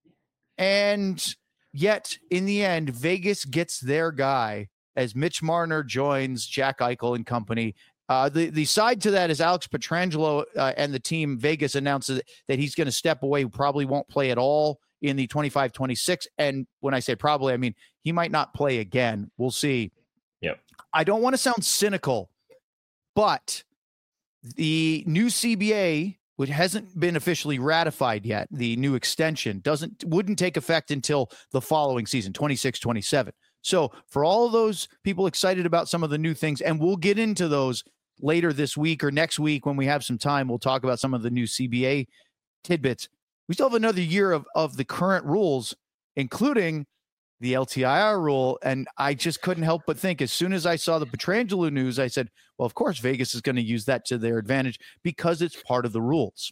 A: And yet, in the end, Vegas gets their guy as Mitch Marner joins Jack Eichel and company. The side to that is Alex Pietrangelo and the team. Vegas announces that he's going to step away, probably won't play at all in the 25-26. And when I say probably, I mean he might not play again. We'll see.
C: Yep.
A: I don't want to sound cynical, but the new CBA, which hasn't been officially ratified yet, the new extension wouldn't take effect until the following season, 26-27. So for all of those people excited about some of the new things, and we'll get into those later this week or next week when we have some time, we'll talk about some of the new CBA tidbits. We still have another year of the current rules, including the LTIR rule. And I just couldn't help but think, as soon as I saw the Pietrangelo news, I said, well, of course, Vegas is going to use that to their advantage because it's part of the rules.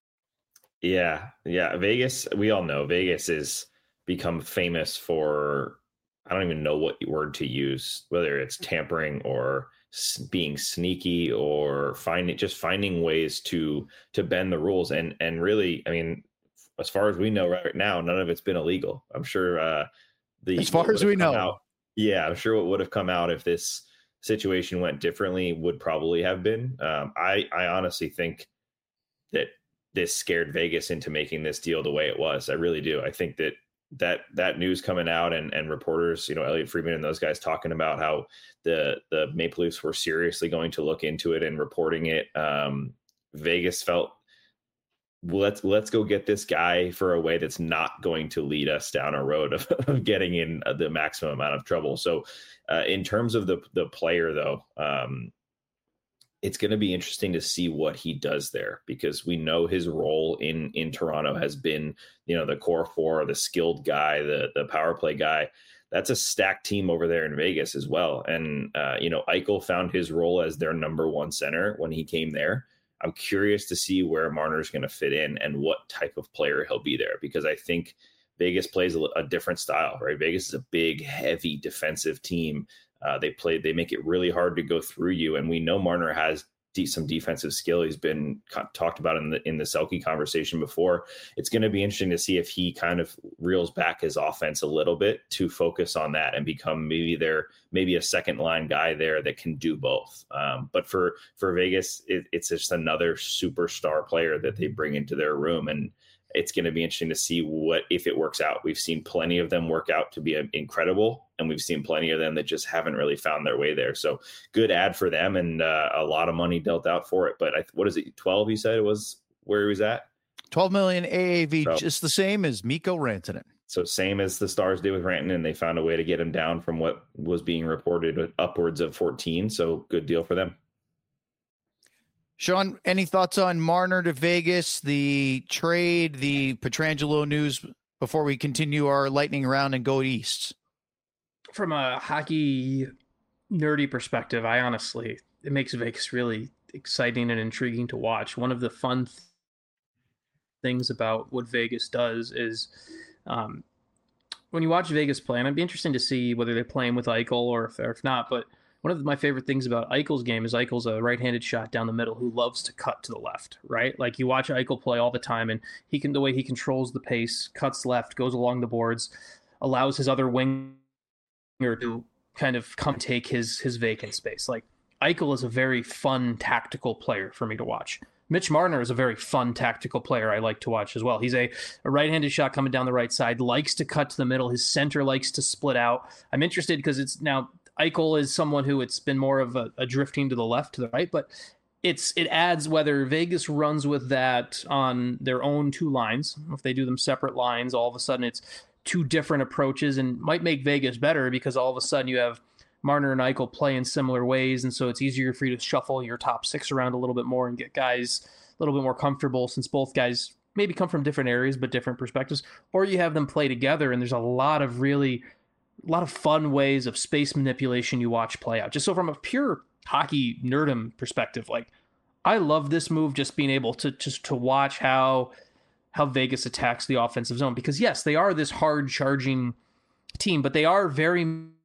C: Yeah. Vegas, we all know Vegas has become famous for, I don't even know what word to use, whether it's tampering or being sneaky or finding ways to bend the rules. And really, I mean, as far as we know right now, none of it's been illegal. I'm sure as far as we know. I'm sure what would have come out if this situation went differently would probably have been. I honestly think that this scared Vegas into making this deal the way it was. I really do. I think that that news coming out and reporters, Elliot Friedman and those guys talking about how the Maple Leafs were seriously going to look into it and reporting it. Vegas felt, let's go get this guy for a way that's not going to lead us down a road of getting in the maximum amount of trouble. So in terms of the player, though, it's going to be interesting to see what he does there, because we know his role in Toronto has been, the core four, the skilled guy, the power play guy. That's a stacked team over there in Vegas as well. And, Eichel found his role as their number one center when he came there. I'm curious to see where Marner's going to fit in and what type of player he'll be there, because I think Vegas plays a different style, right? Vegas is a big, heavy defensive team. They make it really hard to go through you. And we know Marner has some defensive skill. He's been talked about in the Selke conversation before. It's going to be interesting to see if he kind of reels back his offense a little bit to focus on that and become maybe a second line guy there that can do both. But for Vegas, it's just another superstar player that they bring into their room. And it's going to be interesting to see if it works out. We've seen plenty of them work out to be incredible, and we've seen plenty of them that just haven't really found their way there. So good ad for them, and a lot of money dealt out for it. But what is it, 12 you said it was where he was at?
A: 12 million AAV, just the same as Mikko Rantanen.
C: So same as the Stars did with Rantanen, they found a way to get him down from what was being reported upwards of 14. So good deal for them.
A: Sean, any thoughts on Marner to Vegas, the trade, the Pietrangelo news before we continue our lightning round and go east?
B: From a hockey nerdy perspective, it makes Vegas really exciting and intriguing to watch. One of the fun things about what Vegas does is when you watch Vegas play, and it'd be interesting to see whether they're playing with Eichel or if not, but one of my favorite things about Eichel's game is Eichel's a right-handed shot down the middle who loves to cut to the left, right? Like you watch Eichel play all the time, and the way he controls the pace, cuts left, goes along the boards, allows his other winger to kind of come take his vacant space. Like Eichel is a very fun tactical player for me to watch. Mitch Marner is a very fun tactical player I like to watch as well. He's a right-handed shot coming down the right side, likes to cut to the middle. His center likes to split out. I'm interested because it's now Eichel is someone who it's been more of a drifting to the left, to the right, but it adds whether Vegas runs with that on their own two lines. If they do them separate lines, all of a sudden it's two different approaches and might make Vegas better because all of a sudden you have Marner and Eichel play in similar ways, and so it's easier for you to shuffle your top six around a little bit more and get guys a little bit more comfortable since both guys maybe come from different areas but different perspectives, or you have them play together and there's a lot of fun ways of space manipulation you watch play out. Just so from a pure hockey nerdum perspective, like I love this move, just being able to watch how Vegas attacks the offensive zone, because yes, they are this hard charging team, but they are very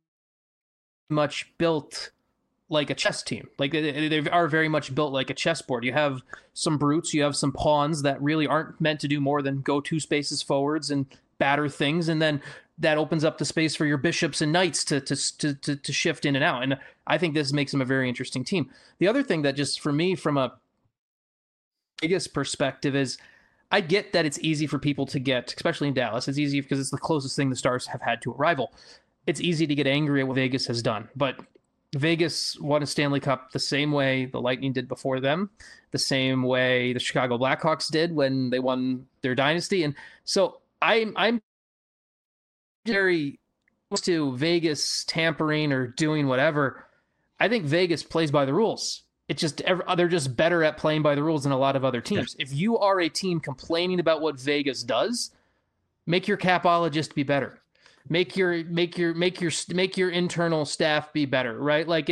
B: much built like a chess team. Like they are very much built like a chessboard. You have some brutes, you have some pawns that really aren't meant to do more than go two spaces forwards and batter things, and then that opens up the space for your bishops and knights to shift in and out. And I think this makes them a very interesting team. The other thing that just for me from a biggest perspective is I get that it's easy for people to get, especially in Dallas, it's easy because it's the closest thing the Stars have had to a rival. It's easy to get angry at what Vegas has done, but Vegas won a Stanley Cup the same way the Lightning did before them, the same way the Chicago Blackhawks did when they won their dynasty. And so I'm very close to Vegas tampering or doing whatever. I think Vegas plays by the rules. It's just they're just better at playing by the rules than a lot of other teams. Yeah. If you are a team complaining about what Vegas does, make your capologist be better. Make your internal staff be better, right? Like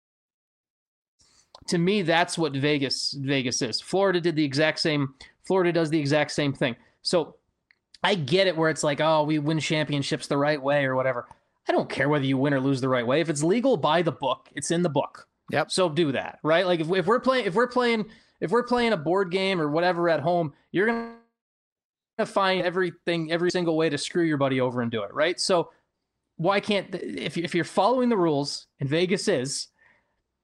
B: to me, that's what Vegas is. Florida does the exact same thing. So I get it where it's like, oh, we win championships the right way or whatever. I don't care whether you win or lose the right way. If it's legal, by the book. It's in the book.
A: Yep.
B: So do that, right? Like if we're playing a board game or whatever at home, you're gonna find every single way to screw your buddy over and do it, right? So why can't if you're following the rules, and Vegas is,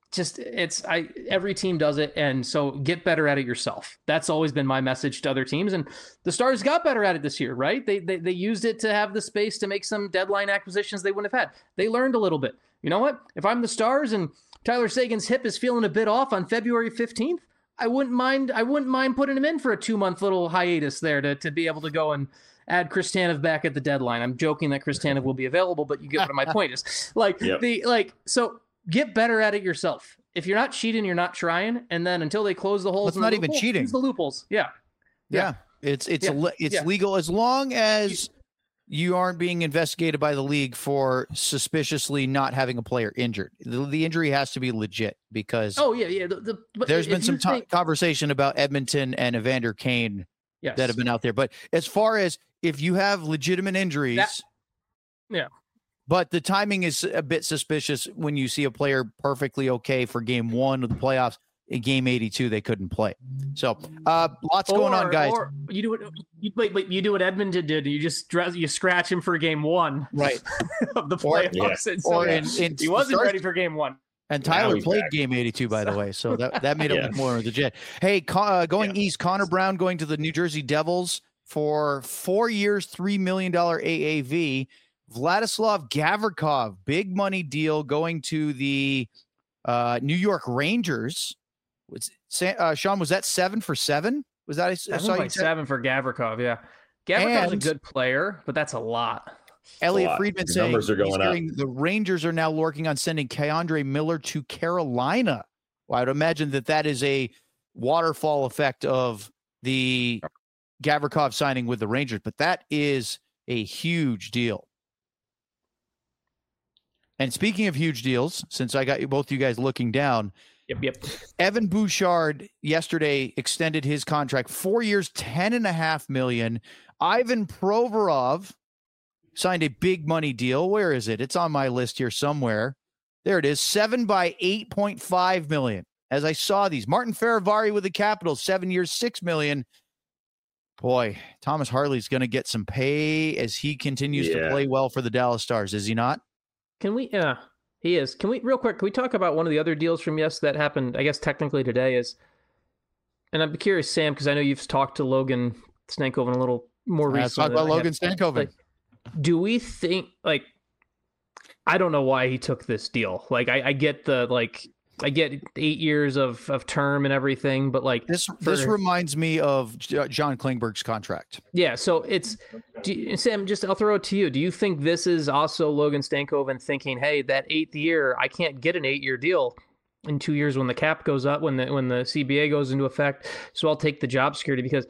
B: every team does it, and so get better at it yourself. That's always been my message to other teams, and the Stars got better at it this year, right? They used it to have the space to make some deadline acquisitions they wouldn't have had. They learned a little bit. You know what? If I'm the Stars and Tyler Seguin's hip is feeling a bit off on February 15th, I wouldn't mind putting him in for a 2-month little hiatus there to be able to go and add Chris Tanev back at the deadline. I'm joking that Chris Tanev will be available, but you get what my point is. So get better at it yourself. If you're not cheating, you're not trying. And then until they close the holes,
A: it's not even cheating.
B: Use the loopholes. Yeah.
A: It's legal as long as you aren't being investigated by the league for suspiciously not having a player injured. The injury has to be legit because there's been some conversation about Edmonton and Evander Kane that have been out there. But as far as if you have legitimate injuries, but the timing is a bit suspicious when you see a player perfectly okay for game 1 of the playoffs. In game 82, they couldn't play. So lots going on, guys.
B: Or you do what Edmonton did. You scratch him for game 1,
A: right,
B: of the playoffs. He wasn't ready for game 1.
A: And Tyler played game 82, by the way, so that made it look more legit. Hey, going east, Connor Brown going to the New Jersey Devils for 4 years, $3 million AAV. Vladislav Gavrikov, big money deal going to the New York Rangers. Sean, was that 7 for 7? Was that
B: 7 for Gavrikov? Yeah, Gavrikov's a good player, but that's a lot.
A: Elliot Friedman saying
C: numbers are going up.
A: The Rangers are now working on sending Keandre Miller to Carolina. Well, I would imagine that is a waterfall effect of the Gavrikov signing with the Rangers, but that is a huge deal. And speaking of huge deals, since I got both you guys looking down, Evan Bouchard yesterday extended his contract 4 years, $10.5 million. Ivan Provorov signed a big money deal. Where is it? It's on my list here somewhere. There it is. 7 by $8.5 million. As I saw these, Martin Feravari with the Capitals, 7 years, $6 million. Boy, Thomas Harley's going to get some pay as he continues to play well for the Dallas Stars, is he not?
B: Can we? He is. Can we, real quick, can we talk about one of the other deals from that happened, I guess, technically today is, and I'm curious, Sam, because I know you've talked to Logan Stankoven a little more recently.
A: Let's talk about Logan Stankoven.
B: Do we think, I don't know why he took this deal. I get I get 8 years of term and everything, but this
A: reminds me of John Klingberg's contract.
B: Yeah. So Sam, I'll throw it to you. Do you think this is also Logan Stankoven thinking, hey, that 8th year, I can't get an 8-year deal in 2 years when the cap goes up, when the CBA goes into effect. So I'll take the job security, because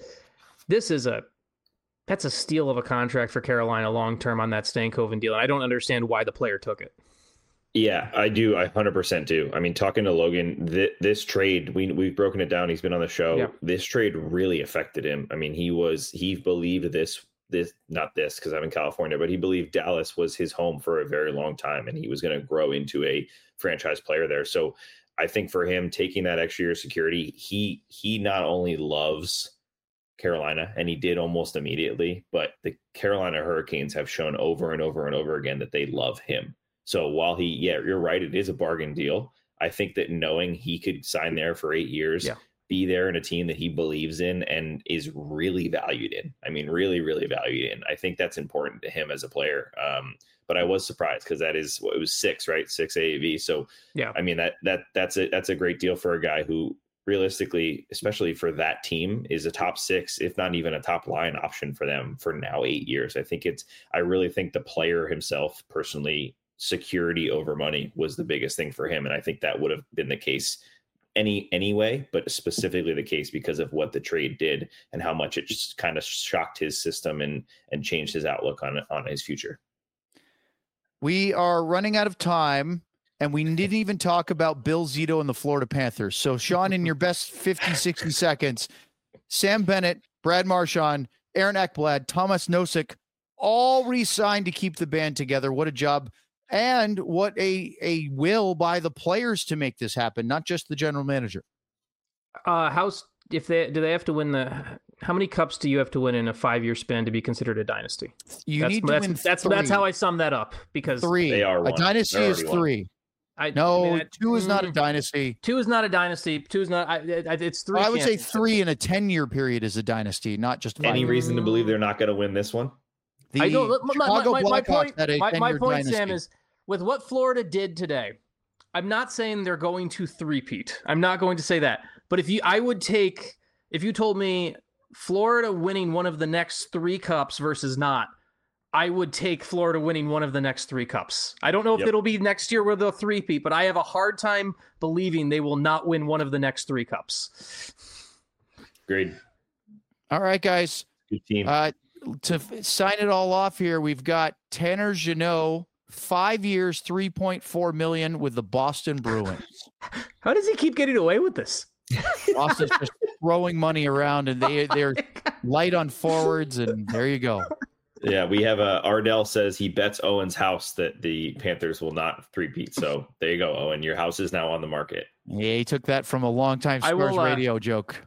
B: that's a steal of a contract for Carolina long-term on that Stankoven deal. And I don't understand why the player took it.
C: Yeah, I do. I 100% do. I mean, talking to Logan, this trade, we've broken it down. He's been on the show. Yeah. This trade really affected him. I mean, he believed this, not this, because I'm in California, but he believed Dallas was his home for a very long time, and he was going to grow into a franchise player there. So I think for him taking that extra year of security, he not only loves Carolina, and he did almost immediately, but the Carolina Hurricanes have shown over and over and over again that they love him. So while you're right, it is a bargain deal. I think that knowing he could sign there for 8 years, be there in a team that he believes in and is really valued in. I mean, really, really valued in. I think that's important to him as a player. But I was surprised because it was 6, right? 6 AAV. So yeah, I mean, that's a great deal for a guy who realistically, especially for that team, is a top 6, if not even a top line option for them for now 8 years. I really think the player himself personally, security over money was the biggest thing for him. And I think that would have been the case anyway, but specifically the case because of what the trade did and how much it just kind of shocked his system and changed his outlook on his future.
A: We are running out of time, and we didn't even talk about Bill Zito and the Florida Panthers. So Sean, in your best 50, 60 seconds, Sam Bennett, Brad Marchand, Aaron Ekblad, Thomas Nosek, all re-signed to keep the band together. What a job. And what a will by the players to make this happen, not just the general manager.
B: Do they have to win how many cups do you have to win in a 5-year span to be considered a dynasty?
A: That's how I sum that up, because
B: 3.
A: A dynasty is 3. Two is not a dynasty.
B: 2 is not a dynasty. 2 is not. It's 3.
A: I would say 3 in a 10-year period is a dynasty, not just 5.
C: Any reason to believe they're not going to win this one?
A: My
B: point, Sam, is with what Florida did today. I'm not saying they're going to three-peat. I'm not going to say that. But if you told me Florida winning one of the next 3 cups versus not, I would take Florida winning one of the next 3 cups. I don't know if it'll be next year where they'll three-peat, but I have a hard time believing they will not win one of the next 3 cups.
C: Agreed.
A: All right, guys.
C: Good team.
A: To sign it all off here, we've got Tanner Jeannot, 5 years, $3.4 million with the Boston Bruins.
B: How does he keep getting away with this?
A: Boston's just throwing money around, and they're light on forwards, and there you go.
C: Yeah, we have Ardell says he bets Owen's house that the Panthers will not three-peat. So there you go, Owen. Your house is now on the market.
A: Yeah, he took that from a longtime Spurs radio joke.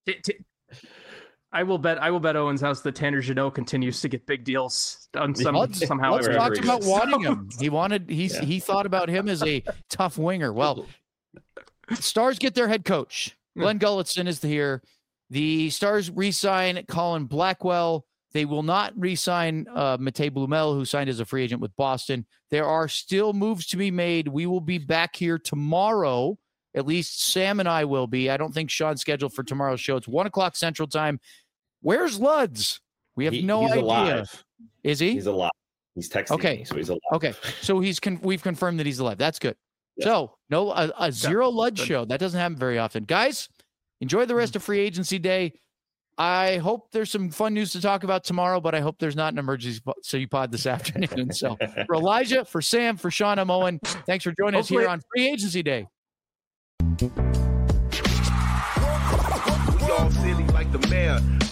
B: I will bet Owen's house that Tanner Jeannot continues to get big deals somehow.
A: Let's talk about wanting him. He thought about him as a tough winger. Well, Stars get their head coach. Glenn Gulletson is here. The Stars re-sign Colin Blackwell. They will not re-sign Matej Blumel, who signed as a free agent with Boston. There are still moves to be made. We will be back here tomorrow. At least Sam and I will be. I don't think Sean's scheduled for tomorrow's show. It's 1:00 Central Time. Where's Luds? We have no idea.
C: Alive.
A: Is he?
C: He's alive. He's texting me, so he's alive.
A: Okay, so we've confirmed that he's alive. That's good. Yeah. So a zero Luds show. That doesn't happen very often. Guys, enjoy the rest of free agency day. I hope there's some fun news to talk about tomorrow, but I hope there's not an emergency pod this afternoon. So for Elijah, for Sam, for Sean, I'm Owen. Thanks for joining us here on Free Agency Day.
E: We all silly like the mayor.